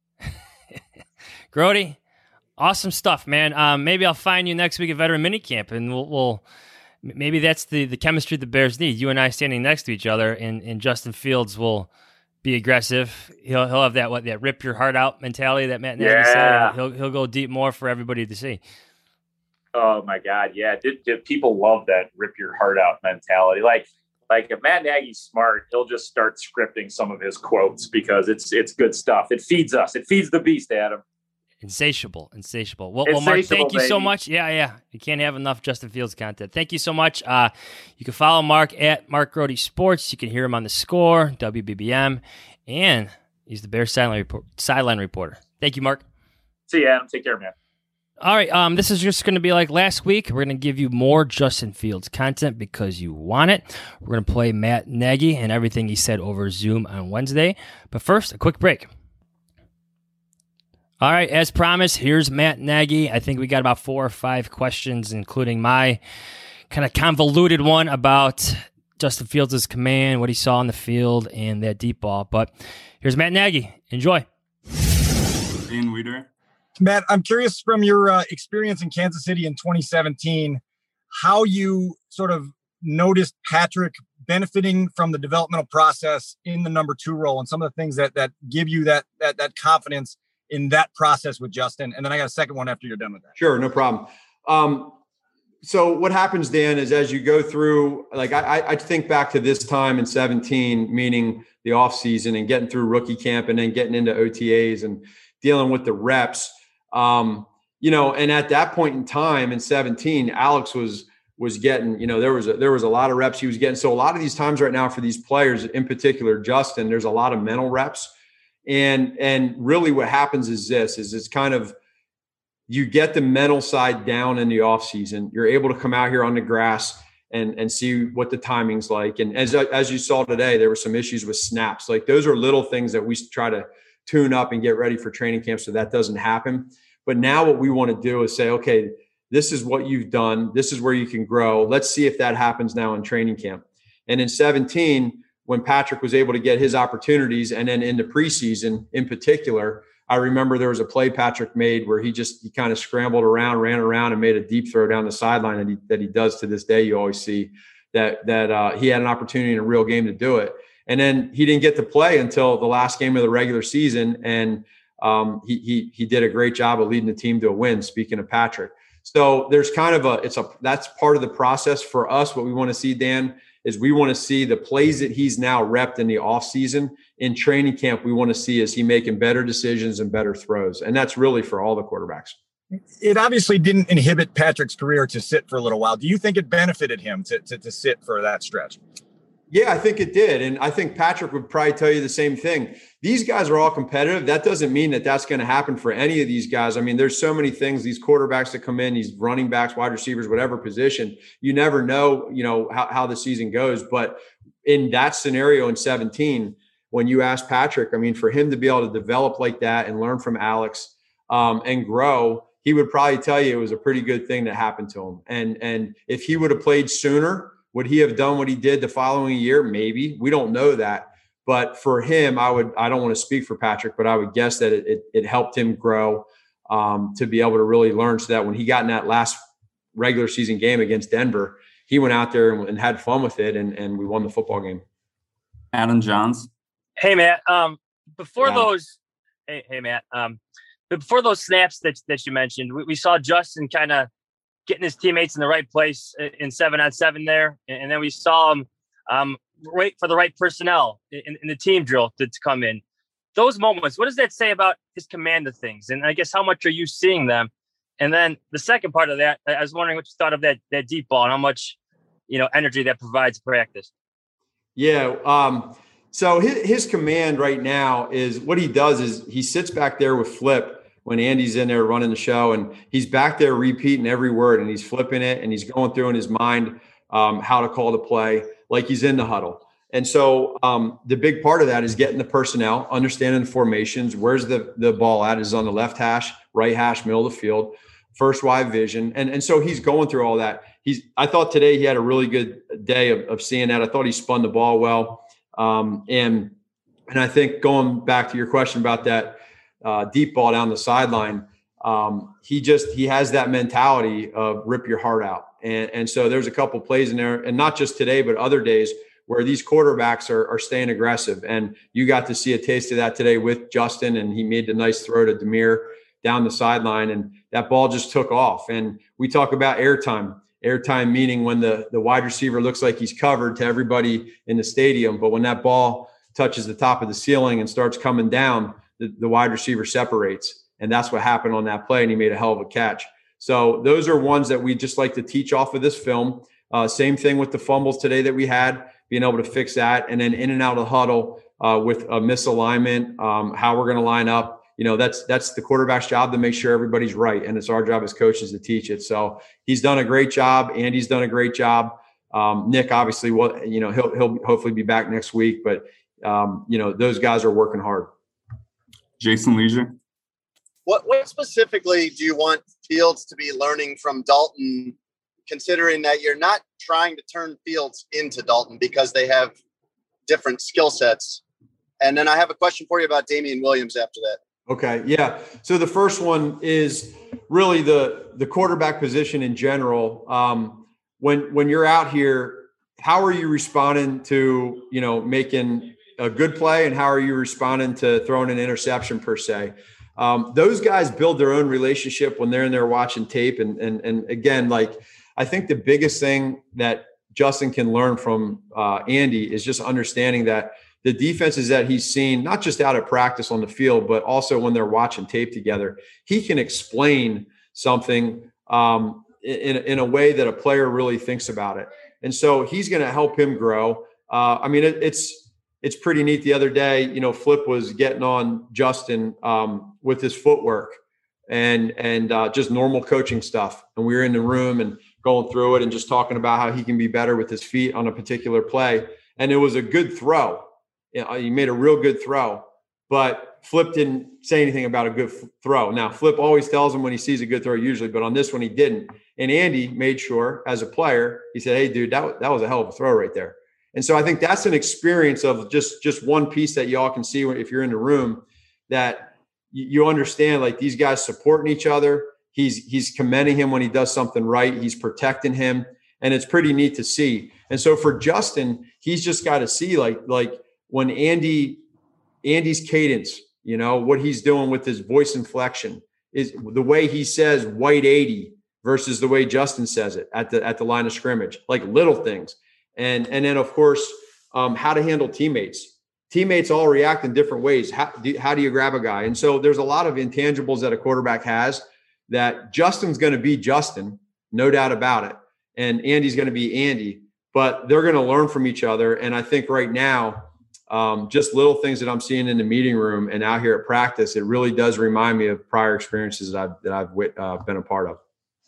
Grody, awesome stuff, man. Um, maybe I'll find you next week at Veteran Minicamp, and we'll, we'll maybe that's the, the chemistry the Bears need. You and I standing next to each other, and, and Justin Fields will be aggressive. He'll he'll have that what that rip your heart out mentality that Matt Nagy Yeah. said. He'll he'll go deep more for everybody to see. Oh my God. Yeah. Did, did people love that rip your heart out mentality? Like, like if Matt Nagy's smart, he'll just start scripting some of his quotes because it's, it's good stuff. It feeds us. It feeds the beast, Adam. Insatiable, insatiable. Well, well Mark, Insatiable, thank you so baby. much. Yeah, yeah. You can't have enough Justin Fields content. Thank you so much. Uh, you can follow Mark at Mark Grody Sports. You can hear him on The Score, W B B M, and he's the Bears sideline, report, sideline reporter. Thank you, Mark. See you, Adam. Take care, man. All right, um, this is just going to be like last week. We're going to give you more Justin Fields content because you want it. We're going to play Matt Nagy and everything he said over Zoom on Wednesday. But first, a quick break. All right, as promised, here's Matt Nagy. I think we got about four or five questions, including my kind of convoluted one about Justin Fields' command, what he saw on the field, and that deep ball. But here's Matt Nagy. Enjoy. Dean Weider. Matt, I'm curious from your uh, experience in Kansas City in twenty seventeen, how you sort of noticed Patrick benefiting from the developmental process in the number two role and some of the things that that give you that that that confidence in that process with Justin. And then I got a second one after you're done with that. Sure, no problem. Um, so what happens, Dan, is as you go through, like I, I think back to this time in seventeen, meaning the offseason and getting through rookie camp and then getting into O T As and dealing with the reps. Um, you know, and at that point in time in seventeen, Alex was was getting, you know, there was a, there was a lot of reps he was getting. So a lot of these times right now for these players, in particular, Justin, there's a lot of mental reps. And and really what happens is this, is it's kind of, you get the mental side down in the off season. You're able to come out here on the grass and, and see what the timing's like. And as, as you saw today, there were some issues with snaps. Like those are little things that we try to tune up and get ready for training camp so that doesn't happen. But now what we want to do is say, okay, this is what you've done. This is where you can grow. Let's see if that happens now in training camp. And in seventeen, when Patrick was able to get his opportunities, and then in the preseason in particular, I remember there was a play Patrick made where he just he kind of scrambled around, ran around, and made a deep throw down the sideline that he, that he does to this day. You always see that that uh, he had an opportunity in a real game to do it. And then he didn't get to play until the last game of the regular season, and um, he he he did a great job of leading the team to a win. Speaking of Patrick, so there's kind of a it's a that's part of the process for us. What we want to see, Dan, is we want to see the plays that he's now repped in the offseason. In training camp, we want to see is he making better decisions and better throws. And that's really for all the quarterbacks. It obviously didn't inhibit Patrick's career to sit for a little while. Do you think it benefited him to, to, to sit for that stretch? Yeah, I think it did. And I think Patrick would probably tell you the same thing. These guys are all competitive. That doesn't mean that that's going to happen for any of these guys. I mean, there's so many things, these quarterbacks that come in, these running backs, wide receivers, whatever position, you never know, you know, how, how the season goes. But in that scenario in seventeen, when you ask Patrick, I mean, for him to be able to develop like that and learn from Alex um, and grow, he would probably tell you it was a pretty good thing that happened to him. And, and if he would have played sooner, would he have done what he did the following year? Maybe. We don't know that. But for him, I would, I don't want to speak for Patrick, but I would guess that it, it, it helped him grow um, to be able to really learn, so that when he got in that last regular season game against Denver, he went out there and, and had fun with it, and, and we won the football game. Adam Johns. Hey, Matt, um, before Yeah. those, hey, hey, Matt, um, but before those snaps that, that you mentioned, we, we saw Justin kind of getting his teammates in the right place in seven on seven there. And then we saw him um, wait for the right personnel in, in the team drill to, to come in. Those moments, what does that say about his command of things? And I guess how much are you seeing them? And then the second part of that, I was wondering what you thought of that that deep ball and how much, you know, energy that provides practice. Yeah. Um, So his, his command right now is what he does is he sits back there with Flip when Andy's in there running the show, and he's back there repeating every word, and he's flipping it, and he's going through in his mind um, how to call the play like he's in the huddle. And so um, the big part of that is getting the personnel, understanding the formations. Where's the, the ball at? Is it on the left hash, right hash, middle of the field, first wide vision. And, and so he's going through all that. He's, I thought today he had a really good day of, of seeing that. I thought he spun the ball well. Um, and, and I think going back to your question about that uh, deep ball down the sideline, um, he just, he has that mentality of rip your heart out. And, and so there's a couple plays in there, and not just today, but other days where these quarterbacks are, are staying aggressive. And you got to see a taste of that today with Justin, and he made the nice throw to Demir down the sideline, and that ball just took off. And we talk about airtime. Airtime meaning when the, the wide receiver looks like he's covered to everybody in the stadium, but when that ball touches the top of the ceiling and starts coming down, the, the wide receiver separates. And that's what happened on that play, and he made a hell of a catch. So those are ones that we just like to teach off of this film. Uh, same thing with the fumbles today that we had, being able to fix that, and then in and out of the huddle uh, with a misalignment, um, how we're going to line up. You know, that's that's the quarterback's job to make sure everybody's right, and it's our job as coaches to teach it. So he's done a great job. Andy's done a great job. Um, Nick, obviously, well, you know, he'll he'll hopefully be back next week, but um, you know, those guys are working hard. Jason Leisure. What what specifically do you want Fields to be learning from Dalton, considering that you're not trying to turn Fields into Dalton because they have different skill sets? And then I have a question for you about Damian Williams after that. Okay. Yeah. So the first one is really the, the quarterback position in general. Um, when, when you're out here, how are you responding to, you know, making a good play, and how are you responding to throwing an interception per se? Um, those guys build their own relationship when they're in there watching tape. And, and, and again, like, I think the biggest thing that Justin can learn from uh, Andy is just understanding that the defenses that he's seen, not just out of practice on the field, but also when they're watching tape together, he can explain something um, in, in a way that a player really thinks about it. And so he's going to help him grow. Uh, I mean, it, it's it's pretty neat. The other day, you know, Flip was getting on Justin um, with his footwork and and uh, just normal coaching stuff. And we were in the room and going through it and just talking about how he can be better with his feet on a particular play. And it was a good throw. You know, he made a real good throw, but Flip didn't say anything about a good f- throw. Now, Flip always tells him when he sees a good throw usually, but on this one he didn't. And Andy made sure, as a player, he said, hey, dude, that, that was a hell of a throw right there. And so I think that's an experience of just, just one piece that y'all can see if you're in the room, that you understand, like, these guys supporting each other. He's he's commending him when he does something right. He's protecting him, and it's pretty neat to see. And so for Justin, he's just got to see, like like when Andy Andy's cadence, you know, what he's doing with his voice inflection, is the way he says white eighty versus the way Justin says it at the at the line of scrimmage, like little things. And and then of course, um, how to handle teammates. Teammates all react in different ways. How do, how do you grab a guy? And so there's a lot of intangibles that a quarterback has that Justin's going to be Justin, no doubt about it. And Andy's going to be Andy, but they're going to learn from each other. And I think right now, um, just little things that I'm seeing in the meeting room and out here at practice, it really does remind me of prior experiences that I've, that I've uh, been a part of.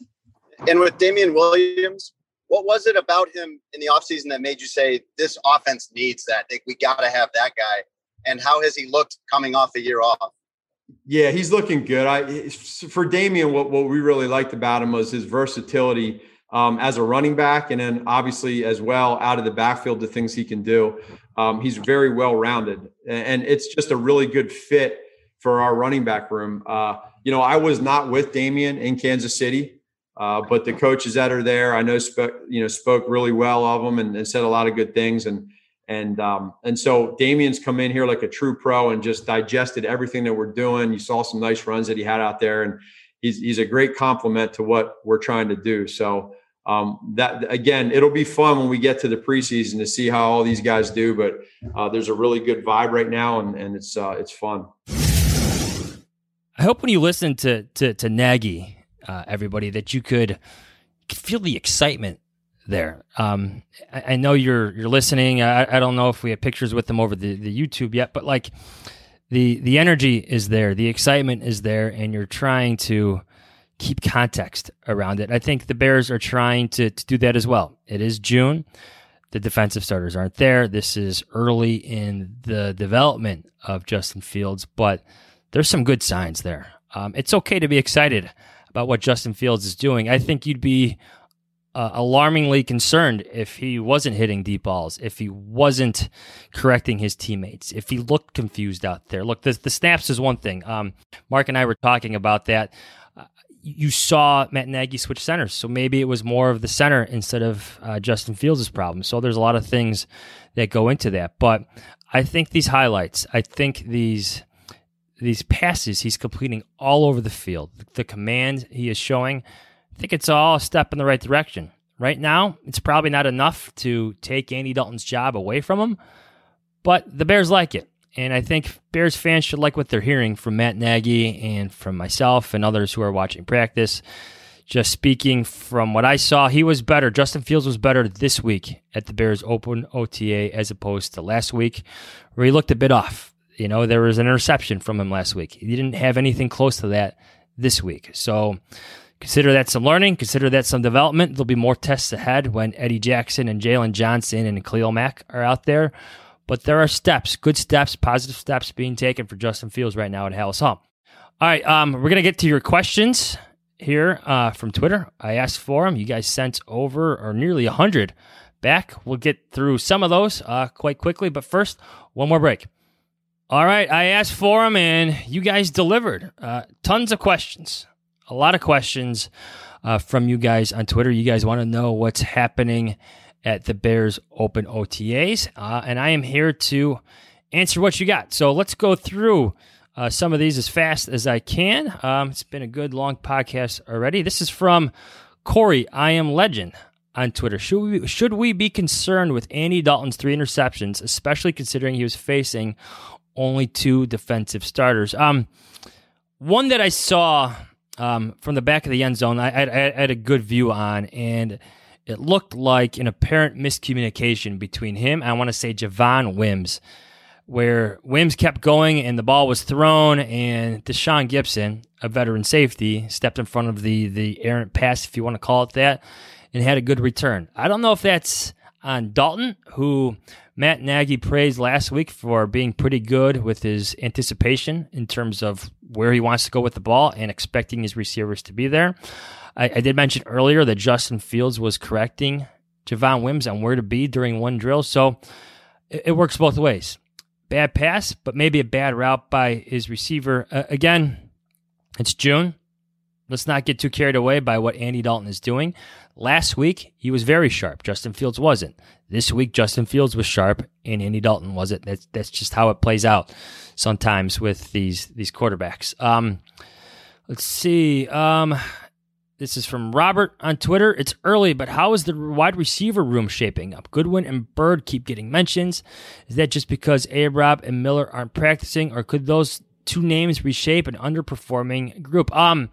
And with Damian Williams, what was it about him in the offseason that made you say this offense needs that? I think we got to have that guy. And how has he looked coming off a year off? Yeah, he's looking good. I for Damian, what, what we really liked about him was his versatility um, as a running back, and then obviously as well out of the backfield, the things he can do. Um, he's very well-rounded, and it's just a really good fit for our running back room. Uh, you know, I was not with Damian in Kansas City, uh, but the coaches that are there, I know, spoke, you know, spoke really well of him and, and said a lot of good things. And And um, and so Damian's come in here like a true pro and just digested everything that we're doing. You saw some nice runs that he had out there, and he's he's a great compliment to what we're trying to do. So um, that again, it'll be fun when we get to the preseason to see how all these guys do. But uh, there's a really good vibe right now, and and it's uh, it's fun. I hope when you listen to to, to Nagy, uh, everybody, that you could, could feel the excitement there. Um, I, I know you're you're listening. I, I don't know if we have pictures with them over the, the YouTube yet, but like the the energy is there, the excitement is there, and you're trying to keep context around it. I think the Bears are trying to, to do that as well. It is June. The defensive starters aren't there. This is early in the development of Justin Fields, but there's some good signs there. Um, it's okay to be excited about what Justin Fields is doing. I think you'd be uh, alarmingly concerned if he wasn't hitting deep balls, if he wasn't correcting his teammates, if he looked confused out there. Look, the, the snaps is one thing. Um, Mark and I were talking about that. You saw Matt Nagy switch centers, so maybe it was more of the center instead of uh, Justin Fields' problem. So there's a lot of things that go into that. But I think these highlights, I think these these passes he's completing all over the field, the command he is showing, I think it's all a step in the right direction. Right now, it's probably not enough to take Andy Dalton's job away from him, but the Bears like it. And I think Bears fans should like what they're hearing from Matt Nagy and from myself and others who are watching practice. Just speaking from what I saw, he was better. Justin Fields was better this week at the Bears Open O T A as opposed to last week, where he looked a bit off. You know, there was an interception from him last week. He didn't have anything close to that this week. So consider that some learning. Consider that some development. There'll be more tests ahead when Eddie Jackson and Jalen Johnson and Khalil Mack are out there. But there are steps, good steps, positive steps being taken for Justin Fields right now at Halas Hall. All right, um, we're going to get to your questions here uh, from Twitter. I asked for them. You guys sent over or nearly one hundred back. We'll get through some of those uh, quite quickly. But first, one more break. All right, I asked for them, and you guys delivered. Uh, tons of questions, a lot of questions uh, from you guys on Twitter. You guys want to know what's happening at the Bears Open O T As, uh, and I am here to answer what you got. So let's go through uh, some of these as fast as I can. Um, it's been a good, long podcast already. This is from Corey, I Am Legend, on Twitter. Should we, should we be concerned with Andy Dalton's three interceptions, especially considering he was facing only two defensive starters? Um, one that I saw um, from the back of the end zone, I, I, I had a good view on, and it looked like an apparent miscommunication between him and I want to say Javon Wims, where Wims kept going and the ball was thrown, and Deshaun Gibson, a veteran safety, stepped in front of the the errant pass, if you want to call it that, and had a good return. I don't know if that's on Dalton, who Matt Nagy praised last week for being pretty good with his anticipation in terms of where he wants to go with the ball and expecting his receivers to be there. I, I did mention earlier that Justin Fields was correcting Javon Wims on where to be during one drill, so it, it works both ways. Bad pass, but maybe a bad route by his receiver. Uh, again, it's June. Let's not get too carried away by what Andy Dalton is doing. Last week, he was very sharp. Justin Fields wasn't. This week, Justin Fields was sharp, and Andy Dalton wasn't. That's that's just how it plays out sometimes with these these quarterbacks. Um, let's see. Um, this is from Robert on Twitter. It's early, but how is the wide receiver room shaping up? Goodwin and Bird keep getting mentions. Is that just because A-Rob and Miller aren't practicing, or could those two names reshape an underperforming group? Um,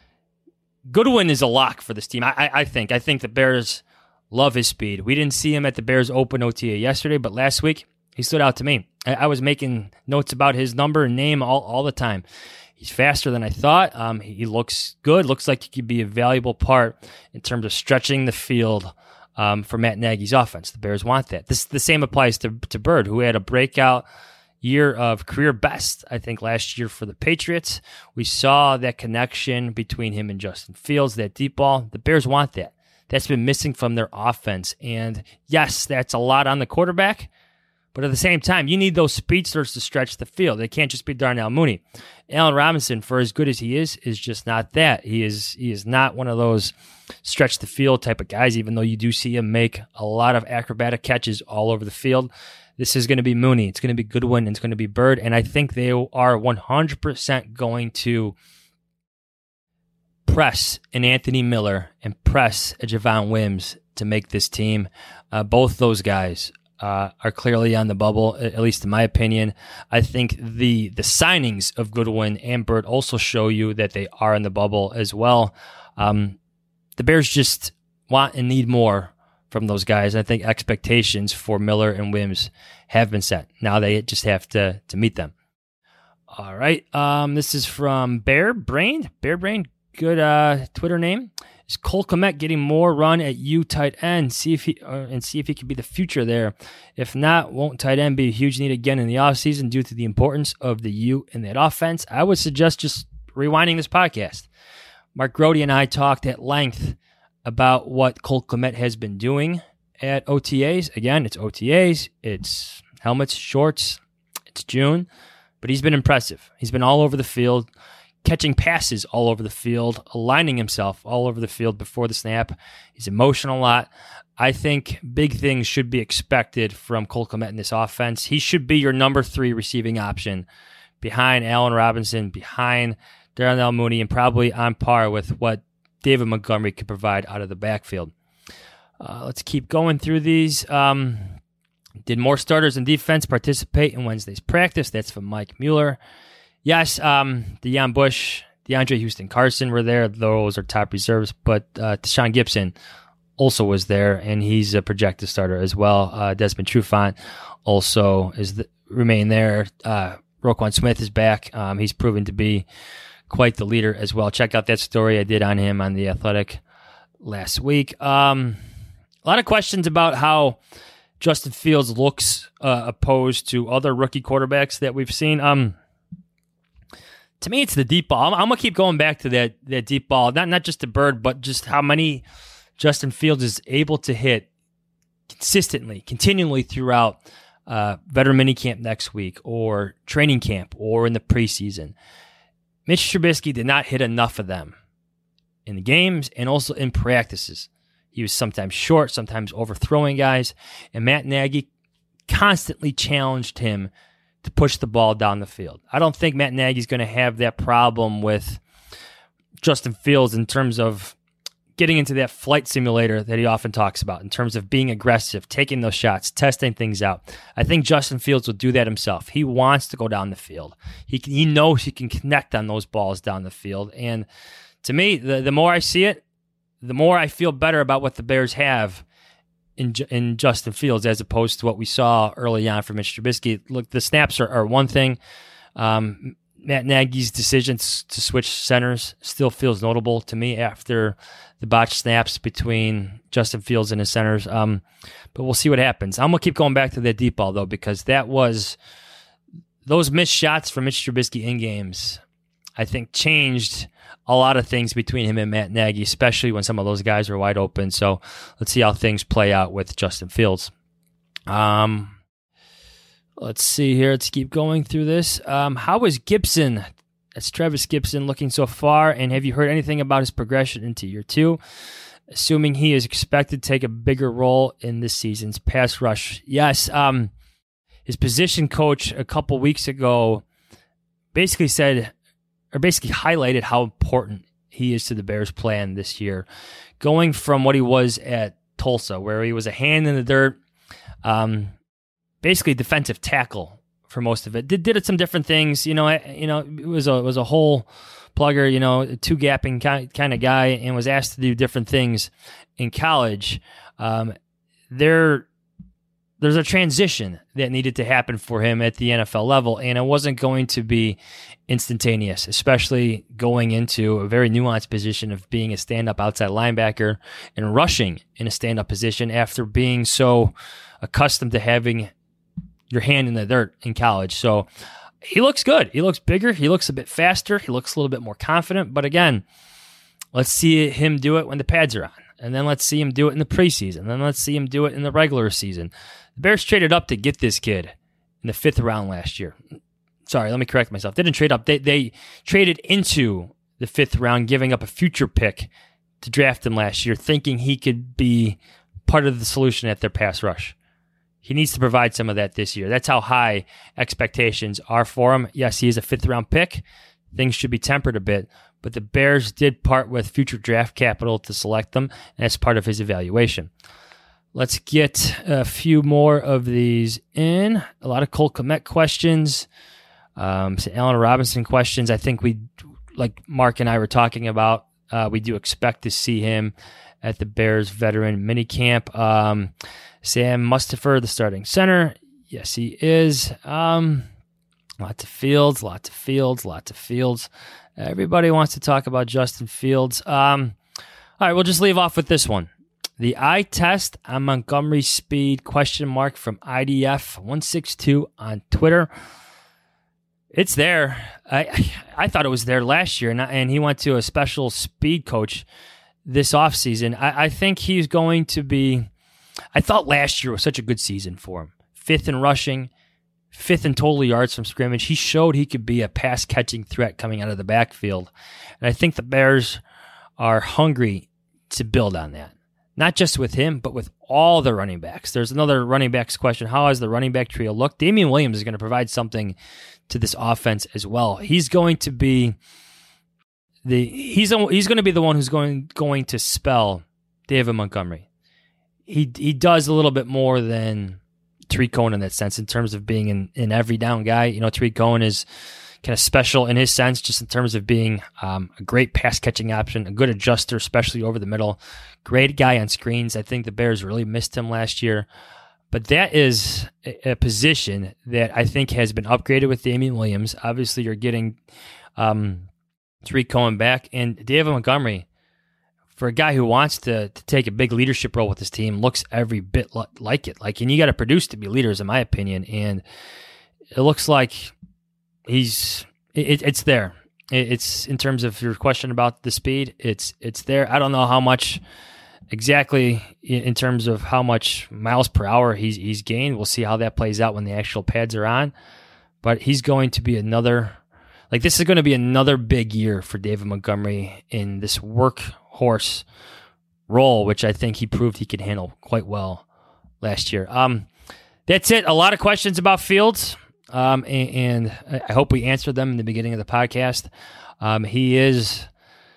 Goodwin is a lock for this team, I, I, I think. I think the Bears love his speed. We didn't see him at the Bears Open O T A yesterday, but last week he stood out to me. I, I was making notes about his number and name all, all the time. He's faster than I thought. Um, he looks good. Looks like he could be a valuable part in terms of stretching the field um, for Matt Nagy's offense. The Bears want that. This the same applies to, to Bird, who had a breakout year of career best, I think, last year for the Patriots. We saw that connection between him and Justin Fields, that deep ball. The Bears want that. That's been missing from their offense. And yes, that's a lot on the quarterback, but at the same time, you need those speedsters to stretch the field. They can't just be Darnell Mooney. Allen Robinson, for as good as he is, is just not that. He is he is not one of those stretch the field type of guys, even though you do see him make a lot of acrobatic catches all over the field. This is going to be Mooney. It's going to be Goodwin. It's going to be Bird. And I think they are one hundred percent going to press an Anthony Miller and press a Javon Wims to make this team. Uh, both those guys uh, are clearly on the bubble, at least in my opinion. I think the the signings of Goodwin and Bird also show you that they are in the bubble as well. Um, the Bears just want and need more from those guys. I think expectations for Miller and Wims have been set. Now they just have to to meet them. All right. Um, this is from Bear Brain. Bear Brain, good uh, Twitter name. Is Cole Kmet getting more run at U tight end? See if he uh, and see if he can be the future there. If not, won't tight end be a huge need again in the offseason due to the importance of the U in that offense? I would suggest just rewinding this podcast. Mark Grody and I talked at length about what Cole Kmet has been doing at O T As. Again, it's O T As, it's helmets, shorts, it's June, but he's been impressive. He's been all over the field, catching passes all over the field, aligning himself all over the field before the snap. He's emotional a lot. I think big things should be expected from Cole Kmet in this offense. He should be your number three receiving option behind Allen Robinson, behind Darnell Mooney, and probably on par with what David Montgomery could provide out of the backfield. Uh, let's keep going through these. Um, did more starters in defense participate in Wednesday's practice? That's from Mike Mueller. Yes, um, Deion Bush, DeAndre Houston Carson were there. Those are top reserves. But uh, Deshaun Gibson also was there, and he's a projected starter as well. Uh, Desmond Trufant also is the, remain there. Uh, Roquan Smith is back. Um, he's proven to be quite the leader as well. Check out that story I did on him on The Athletic last week. Um, a lot of questions about how Justin Fields looks uh, opposed to other rookie quarterbacks that we've seen. Um, to me, it's the deep ball. I'm, I'm going to keep going back to that that deep ball. Not, not just the bird, but just how many Justin Fields is able to hit consistently, continually throughout uh, veteran minicamp next week or training camp or in the preseason. Mitch Trubisky did not hit enough of them in the games and also in practices. He was sometimes short, sometimes overthrowing guys, and Matt Nagy constantly challenged him to push the ball down the field. I don't think Matt Nagy's going to have that problem with Justin Fields in terms of getting into that flight simulator that he often talks about, in terms of being aggressive, taking those shots, testing things out. I think Justin Fields will do that himself. He wants to go down the field. He can, he knows he can connect on those balls down the field. And to me, the, the more I see it, the more I feel better about what the Bears have in in Justin Fields as opposed to what we saw early on from Mitch Trubisky. Look, the snaps are, are one thing. Um, Matt Nagy's decision to switch centers still feels notable to me after the botched snaps between Justin Fields and his centers. Um, but we'll see what happens. I'm going to keep going back to that deep ball, though, because that was those missed shots from Mitch Trubisky in games, I think, changed a lot of things between him and Matt Nagy, especially when some of those guys were wide open. So let's see how things play out with Justin Fields. Um, let's see here. Let's keep going through this. Um, how is Gibson, that's Travis Gibson, looking so far? And have you heard anything about his progression into year two? Assuming he is expected to take a bigger role in this season's pass rush. Yes, um, his position coach a couple weeks ago basically said, or basically highlighted how important he is to the Bears' plan this year. Going from what he was at Tulsa, where he was a hand in the dirt, um, basically defensive tackle for most of it. Did did some different things, you know. You know, it was a it was a hole plugger, you know, two gapping kind kind of guy, and was asked to do different things in college. Um, there. There's a transition that needed to happen for him at the N F L level, and it wasn't going to be instantaneous, especially going into a very nuanced position of being a stand-up outside linebacker and rushing in a stand-up position after being so accustomed to having your hand in the dirt in college. So he looks good. He looks bigger. He looks a bit faster. He looks a little bit more confident. But again, let's see him do it when the pads are on. And then let's see him do it in the preseason. And then let's see him do it in the regular season. The Bears traded up to get this kid in the fifth round last year. Sorry, let me correct myself. They didn't trade up. They, they traded into the fifth round, giving up a future pick to draft him last year, thinking he could be part of the solution at their pass rush. He needs to provide some of that this year. That's how high expectations are for him. Yes, he is a fifth-round pick. Things should be tempered a bit. But the Bears did part with future draft capital to select them, and that's part of his evaluation. Let's get a few more of these in. A lot of Cole Kmet questions, um, some Allen Robinson questions. I think we, like Mark and I were talking about Uh, we do expect to see him at the Bears veteran minicamp. Um, Sam Mustipher, the starting center. Yes, he is. Um, lots of Fields, lots of Fields, lots of Fields. Everybody wants to talk about Justin Fields. Um, all right, we'll just leave off with this one. The eye test on Montgomery speed, question mark, from I D F one sixty-two on Twitter. It's there. I I thought it was there last year, and, and he went to a special speed coach this offseason. I, I think he's going to be – I thought last year was such a good season for him. Fifth in rushing, fifth in total yards from scrimmage. He showed he could be a pass-catching threat coming out of the backfield. And I think the Bears are hungry to build on that. Not just with him, but with all the running backs. There's another running backs question. How has the running back trio looked? Damian Williams is going to provide something to this offense as well. He's going to be the he's he's going to be the one who's going going to spell David Montgomery. He he does a little bit more than Tariq Cohen in that sense in terms of being an, an every down guy. You know, Tariq Cohen is kind of special in his sense, just in terms of being um, a great pass catching option, a good adjuster, especially over the middle. Great guy on screens. I think the Bears really missed him last year. But that is a, a position that I think has been upgraded with Damian Williams. Obviously, you're getting um, Tariq Cohen back. And David Montgomery, for a guy who wants to, to take a big leadership role with his team, looks every bit li- like it. Like, and you got to produce to be leaders, in my opinion. And it looks like he's it, it's there. It, it's in terms of your question about the speed. It's it's there. I don't know how much exactly in terms of how much miles per hour he's he's gained. We'll see how that plays out when the actual pads are on. But he's going to be another like this is going to be another big year for David Montgomery in this workhorse role, which I think he proved he could handle quite well last year. Um, that's it. A lot of questions about Fields. Um, and, and I hope we answered them in the beginning of the podcast. Um, he is,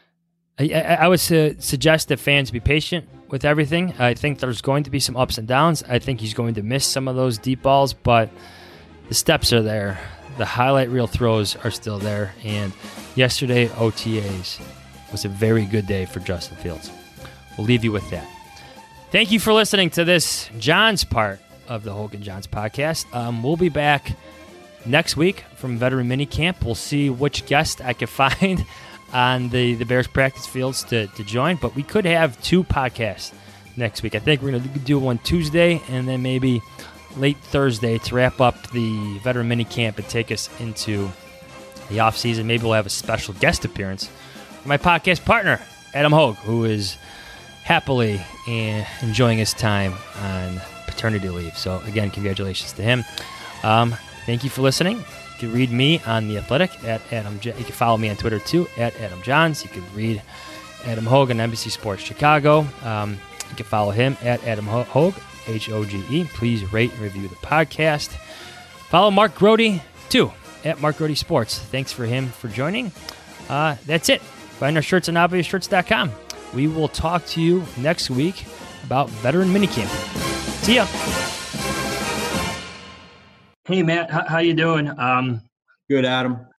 I, I would su- suggest that fans be patient with everything. I think there's going to be some ups and downs. I think he's going to miss some of those deep balls, but the steps are there. The highlight reel throws are still there. And yesterday at O T As was a very good day for Justin Fields. We'll leave you with that. Thank you for listening to this John's part of the Hogan Johns podcast. Um, we'll be back next week from Veteran Minicamp. We'll see which guest I can find on the, the Bears practice fields to, to join, but we could have two podcasts next week. I think we're going to do one Tuesday and then maybe late Thursday to wrap up the Veteran Minicamp and take us into the offseason. Maybe we'll have a special guest appearance from my podcast partner, Adam Hogue, who is happily enjoying his time on paternity leave. So, again, congratulations to him. Um, thank you for listening. You can read me on The Athletic at Adam. J- you can follow me on Twitter, too, at Adam Johns. You can read Adam Hogue on N B C Sports Chicago. Um, you can follow him at Adam Hogue, H O G E. Please rate and review the podcast. Follow Mark Grody, too, at Mark Grody Sports. Thanks for him for joining. Uh, that's it. Find our shirts on obvious shirts dot com. We will talk to you next week about Veteran Minicamp. See ya. Hey, Matt. How, how you doing? Um, Good, Adam.